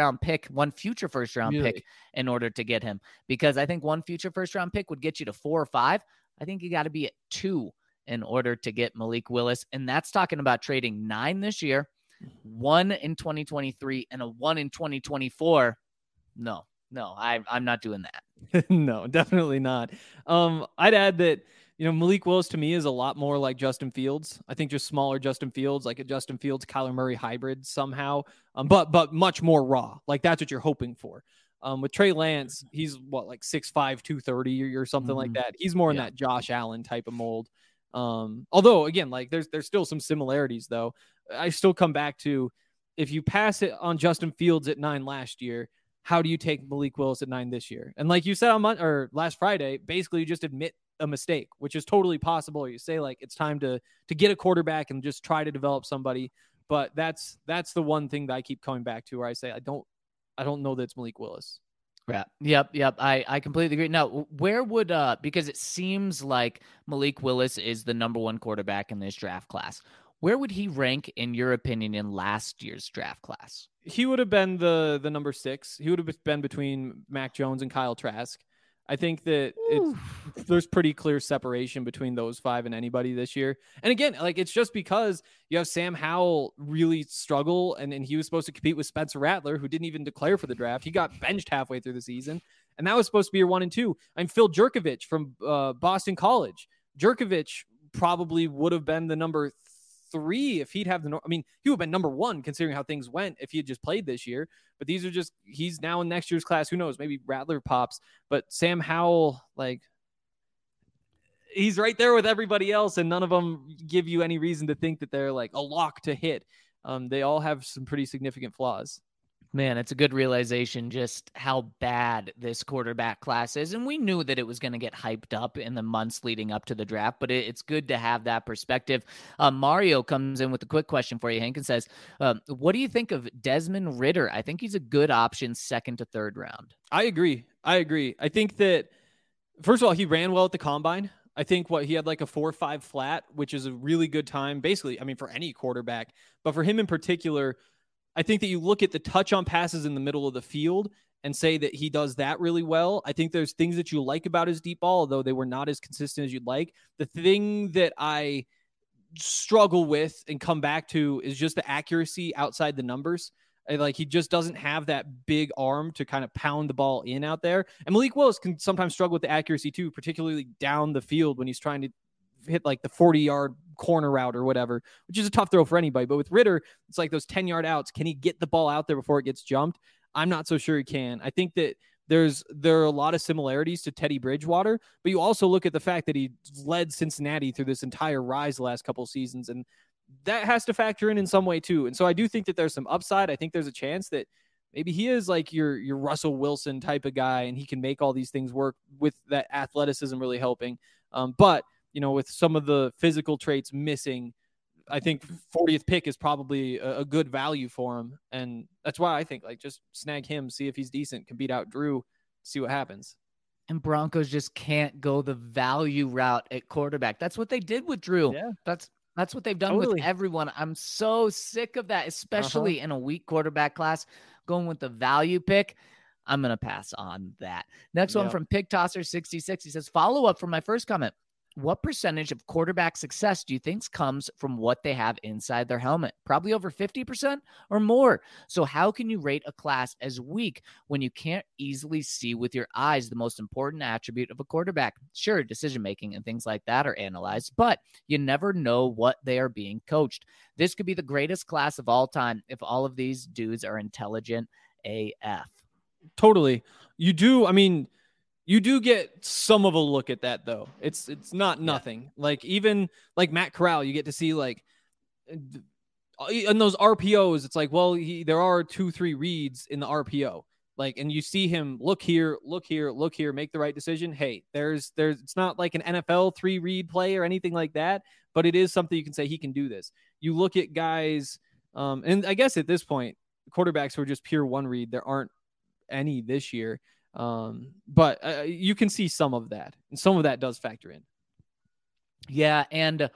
future first round pick in order to get him, because I think one future first round pick would get you to 4 or 5. I think you got to be at 2 in order to get Malik Willis. And that's talking about trading 9 this year, 1 in 2023 and a 1 in 2024. No, I'm not doing that. No, definitely not. I'd add that, Malik Willis to me is a lot more like Justin Fields. I think just smaller Justin Fields, like a Justin Fields, Kyler Murray hybrid somehow, but much more raw. Like that's what you're hoping for. With Trey Lance, he's like 6'5", 230 or something like that. He's more in that Josh Allen type of mold. Although again, like there's still some similarities though. I still come back to, if you pass it on Justin Fields at 9 last year, how do you take Malik Willis at 9 this year? And like you said on last Friday, basically you just admit a mistake, which is totally possible. You say like, it's time to get a quarterback and just try to develop somebody. But that's the one thing that I keep coming back to, where I say, I don't know that it's Malik Willis. Yeah. Yep. I completely agree. Now, where would, because it seems like Malik Willis is the number 1 quarterback in this draft class. Where would he rank, in your opinion, in last year's draft class? He would have been the number 6. He would have been between Mac Jones and Kyle Trask. I think that there's pretty clear separation between those 5 and anybody this year. And again, like it's just because you have Sam Howell really struggle, and he was supposed to compete with Spencer Rattler, who didn't even declare for the draft. He got benched halfway through the season, and that was supposed to be your 1 and 2. I'm Phil Jurkovich from Boston College. Jurkovich probably would have been the number 3 if he'd have he would have been number 1 considering how things went if he had just played this year. But these are just, he's now in next year's class. Who knows? Maybe Rattler pops. But Sam Howell, like, he's right there with everybody else, and none of them give you any reason to think that they're like a lock to hit. They all have some pretty significant flaws. Man, it's a good realization just how bad this quarterback class is. And we knew that it was going to get hyped up in the months leading up to the draft, but it's good to have that perspective. Mario comes in with a quick question for you, Hank, and says, what do you think of Desmond Ridder? I think he's a good option 2nd to 3rd round. I agree. I think that, first of all, he ran well at the combine. I think he had like a 4.5 flat, which is a really good time, basically, for any quarterback. But for him in particular, I think that you look at the touch on passes in the middle of the field and say that he does that really well. I think there's things that you like about his deep ball, although they were not as consistent as you'd like. The thing that I struggle with and come back to is just the accuracy outside the numbers. Like, he just doesn't have that big arm to kind of pound the ball in out there. And Malik Willis can sometimes struggle with the accuracy too, particularly down the field when he's trying to hit like the 40-yard corner route or whatever, which is a tough throw for anybody. But with Ridder, it's like those 10-yard outs. Can he get the ball out there before it gets jumped? I'm not so sure he can. I think that there are a lot of similarities to Teddy Bridgewater, but you also look at the fact that he led Cincinnati through this entire rise the last couple of seasons, and that has to factor in some way too. And so I do think that there's some upside. I think there's a chance that maybe he is like your Russell Wilson type of guy, and he can make all these things work with that athleticism really helping. But with some of the physical traits missing, I think 40th pick is probably a good value for him. And that's why I think like just snag him, see if he's decent, can beat out Drew, see what happens. And Broncos just can't go the value route at quarterback. That's what they did with Drew. Yeah. That's what they've done with everyone. I'm so sick of that, especially in a weak quarterback class, going with the value pick. I'm going to pass on that. Next one from Pig Tosser 66. He says, follow up from my first comment. What percentage of quarterback success do you think comes from what they have inside their helmet? Probably over 50% or more. So how can you rate a class as weak when you can't easily see with your eyes the most important attribute of a quarterback? Sure, decision-making and things like that are analyzed, but you never know what they are being coached. This could be the greatest class of all time if all of these dudes are intelligent AF. Totally. You do get some of a look at that, though. It's not nothing. Yeah. Like, even like Matt Corral, you get to see like in those RPOs, it's like, well, there are 2-3 reads in the RPO. Like, and you see him look here, make the right decision. Hey, there's it's not like an NFL 3-read play or anything like that, but it is something you can say he can do this. You look at guys, and I guess at this point, quarterbacks who are just pure 1-read, there aren't any this year. But you can see some of that, and some of that does factor in. Yeah. And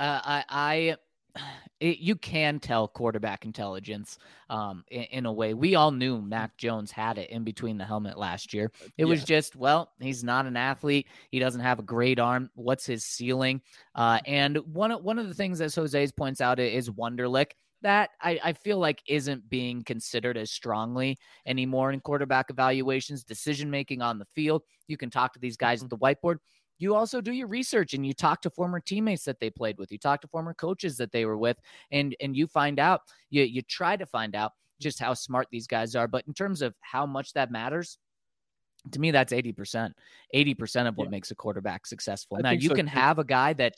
you can tell quarterback intelligence in a way. We all knew Mac Jones had it in between the helmet last year. It was just, well, he's not an athlete. He doesn't have a great arm. What's his ceiling? And one of the things that Jose's points out is Wonderlic. That I feel like isn't being considered as strongly anymore in quarterback evaluations, decision-making on the field. You can talk to these guys at the whiteboard. You also do your research and you talk to former teammates that they played with. You talk to former coaches that they were with, and you find out, you try to find out just how smart these guys are. But in terms of how much that matters, to me, that's 80%. 80% of what makes a quarterback successful. Now, you can have a guy that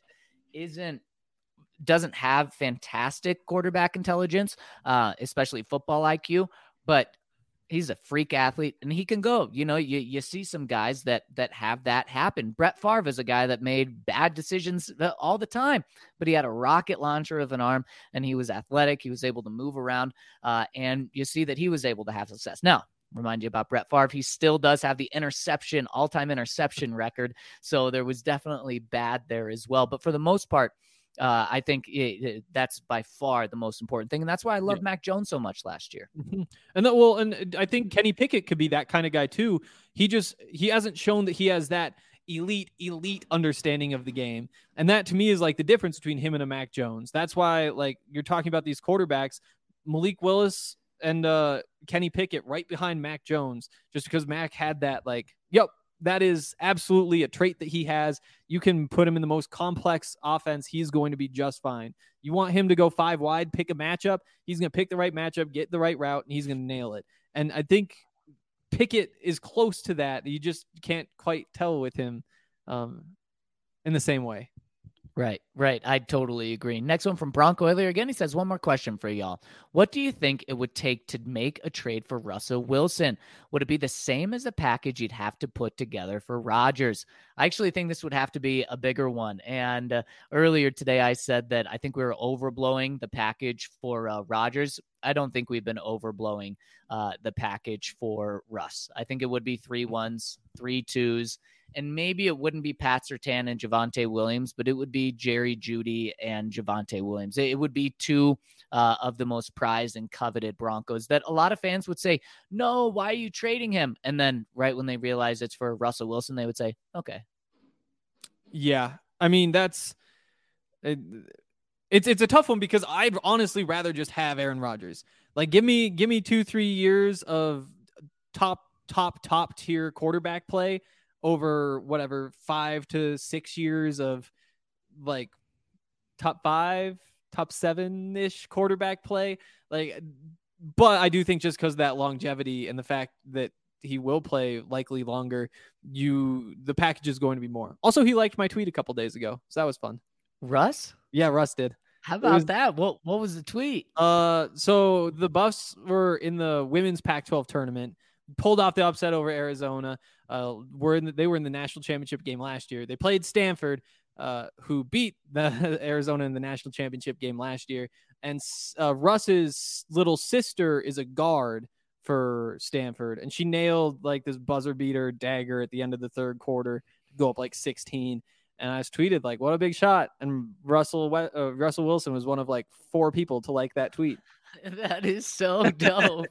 doesn't have fantastic quarterback intelligence, especially football IQ, but he's a freak athlete and he can go. You see some guys that have that happen. Brett Favre is a guy that made bad decisions all the time, but he had a rocket launcher of an arm and he was athletic. He was able to move around, and you see that he was able to have success. Now, remind you about Brett Favre. He still does have the all-time interception record. So there was definitely bad there as well. But for the most part, I think that's by far the most important thing. And that's why I love Mac Jones so much last year. Mm-hmm. And I think Kenny Pickett could be that kind of guy too. He hasn't shown that he has that elite understanding of the game. And that to me is like the difference between him and a Mac Jones. That's why, like, you're talking about these quarterbacks, Malik Willis and Kenny Pickett right behind Mac Jones, just because Mac had that, like, that is absolutely a trait that he has. You can put him in the most complex offense. He's going to be just fine. You want him to go 5 wide, pick a matchup. He's going to pick the right matchup, get the right route, and he's going to nail it. And I think Pickett is close to that. You just can't quite tell with him in the same way. Right. I totally agree. Next one from Bronco earlier again. He says, one more question for y'all. What do you think it would take to make a trade for Russell Wilson? Would it be the same as the package you'd have to put together for Rodgers? I actually think this would have to be a bigger one. And earlier today, I said that I think we were overblowing the package for Rodgers. I don't think we've been overblowing the package for Russ. I think it would be 3 1s, 3 2s, and maybe it wouldn't be Pat Surtain and Javonte Williams, but it would be Jerry Jeudy and Javonte Williams. It would be two of the most prized and coveted Broncos that a lot of fans would say, no, why are you trading him? And then right when they realize it's for Russell Wilson, they would say, okay. Yeah. I mean, it's a tough one because I'd honestly rather just have Aaron Rodgers. Like, give me 2-3 years of top tier quarterback play over whatever 5 to 6 years of like top 5, top 7-ish quarterback play. Like, but I do think just because of that longevity and the fact that he will play likely longer, the package is going to be more. Also, he liked my tweet a couple days ago, so that was fun. Russ? Yeah, Russ did. How about that? What was the tweet? So the Buffs were in the women's Pac-12 tournament, pulled off the upset over Arizona. They were in the national championship game last year. They played Stanford, who beat the Arizona in the national championship game last year. And Russ's little sister is a guard for Stanford, and she nailed like this buzzer beater dagger at the end of the third quarter to go up like 16. And I just tweeted like, what a big shot. And Russell Wilson was one of like 4 people to like that tweet. That is so dope.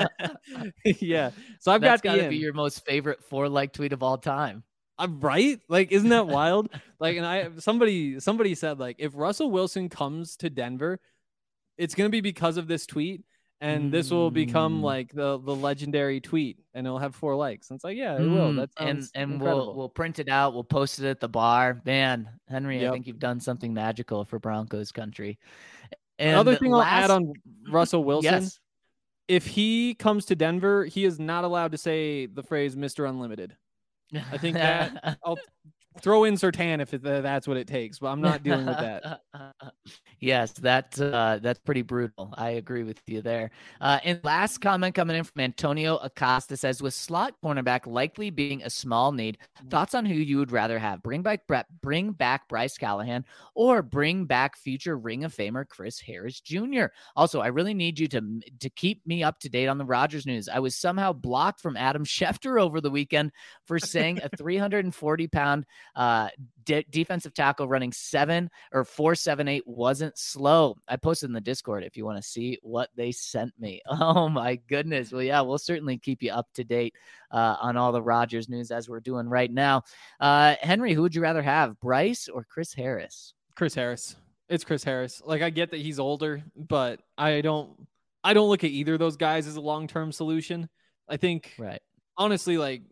Yeah. So That's got to be your most favorite 4-like tweet of all time. I'm right. Like, isn't that wild? Like, and somebody said like, if Russell Wilson comes to Denver, it's going to be because of this tweet. And this will become like the legendary tweet, and it'll have 4 likes. And it's like, yeah, it will. That sounds incredible. We'll print it out. We'll post it at the bar. Man, Henry, yep. I think you've done something magical for Broncos country. And another thing I'll add on Russell Wilson, yes. If he comes to Denver, he is not allowed to say the phrase Mr. Unlimited. I think that I'll throw in Surtain if that's what it takes, but I'm not dealing with that. Yes, that's pretty brutal. I agree with you there. And last comment coming in from Antonio Acosta says, with slot cornerback likely being a small need, thoughts on who you would rather have? Bring back Bryce Callahan or bring back future Ring of Famer Chris Harris Jr. Also, I really need you to keep me up to date on the Rodgers news. I was somehow blocked from Adam Schefter over the weekend for saying a 340-pound defensive tackle running 4.78 wasn't slow. I posted in the Discord if you want to see what they sent me. Oh my goodness. Well, yeah, we'll certainly keep you up to date on all the Rodgers news as we're doing right now. Henry, who would you rather have, Bryce or Chris Harris? Chris Harris. It's Chris Harris. Like, I get that he's older, but I don't look at either of those guys as a long-term solution. I think, right. Honestly, like,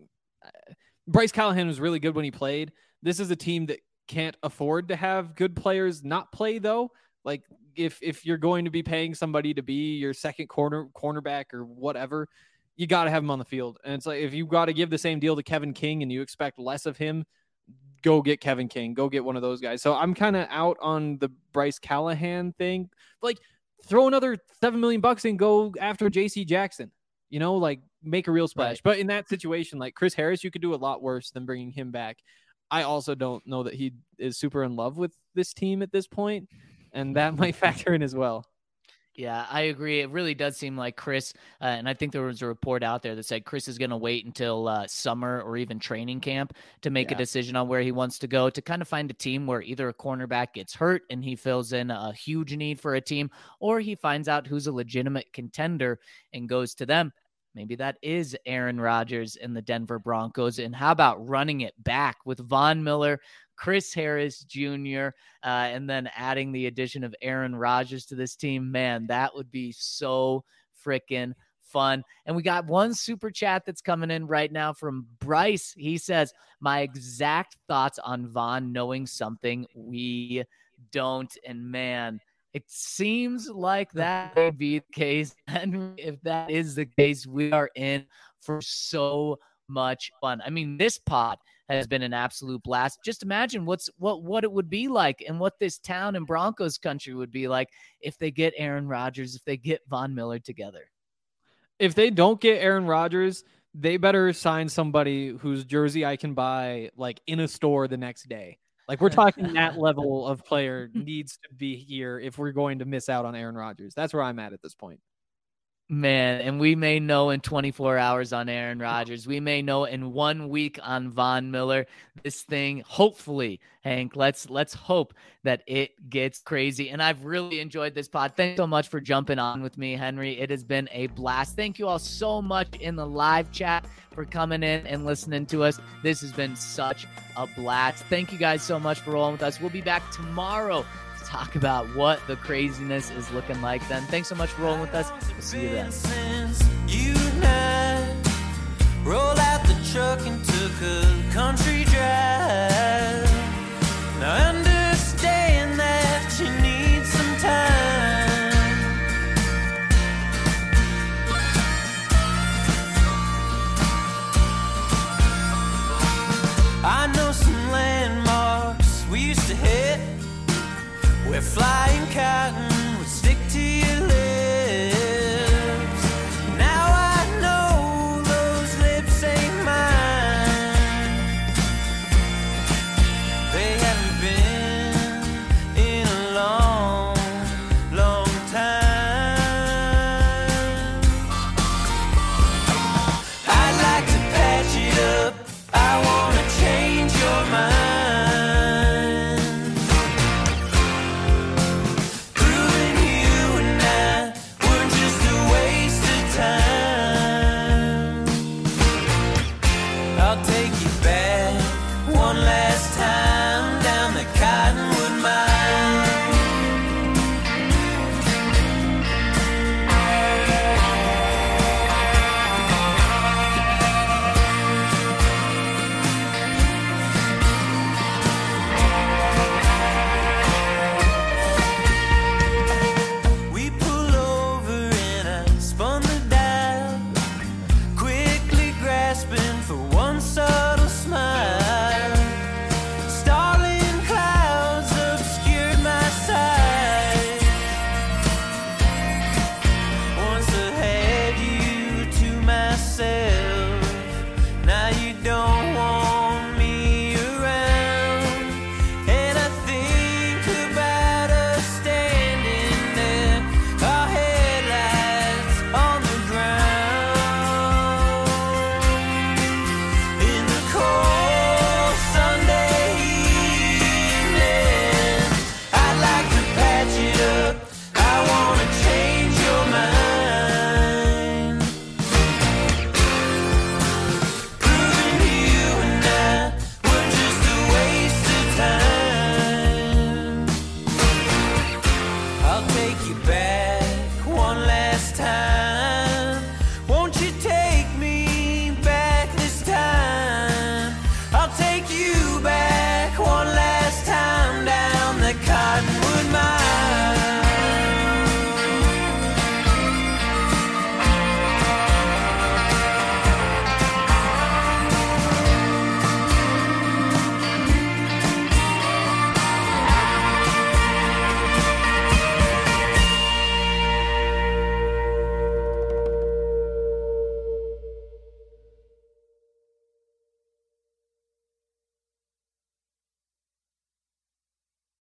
Bryce Callahan was really good when he played. This is a team that can't afford to have good players not play, though. Like, if you're going to be paying somebody to be your second cornerback or whatever, you got to have him on the field. And it's like, if you got to give the same deal to Kevin King and you expect less of him, go get Kevin King. Go get one of those guys. So I'm kind of out on the Bryce Callahan thing. Like, throw another $7 million and go after JC Jackson. You know, like, make a real splash. Right. But in that situation, like Chris Harris, you could do a lot worse than bringing him back. I also don't know that he is super in love with this team at this point, and that might factor in as well. Yeah, I agree. It really does seem like Chris, and I think there was a report out there that said Chris is going to wait until summer or even training camp to make a decision on where he wants to go, to kind of find a team where either a cornerback gets hurt and he fills in a huge need for a team, or he finds out who's a legitimate contender and goes to them. Maybe that is Aaron Rodgers and the Denver Broncos. And how about running it back with Von Miller, Chris Harris Jr., and then adding the addition of Aaron Rodgers to this team? Man, that would be so freaking fun. And we got one super chat that's coming in right now from Bryce. He says, my exact thoughts on Von knowing something we don't. And man, it seems like that may be the case. And if that is the case, we are in for so much fun. I mean, this pod has been an absolute blast. Just imagine what it would be like and what this town and Broncos country would be like if they get Aaron Rodgers, if they get Von Miller together. If they don't get Aaron Rodgers, they better sign somebody whose jersey I can buy like in a store the next day. Like, we're talking that level of player needs to be here if we're going to miss out on Aaron Rodgers. That's where I'm at this point. Man, and we may know in 24 hours on Aaron Rodgers. We may know in 1 week on Von Miller. This thing, hopefully, Hank, let's hope that it gets crazy. And I've really enjoyed this pod. Thanks so much for jumping on with me, Henry. It has been a blast. Thank you all so much in the live chat for coming in and listening to us. This has been such a blast. Thank you guys so much for rolling with us. We'll be back tomorrow to talk about what the craziness is looking like then. Thanks so much for rolling with us. We'll see you then. Since you and I rolled out the truck and took a country drive. Now understand that you need some time. I know some landmarks we used to hit. We're flying cotton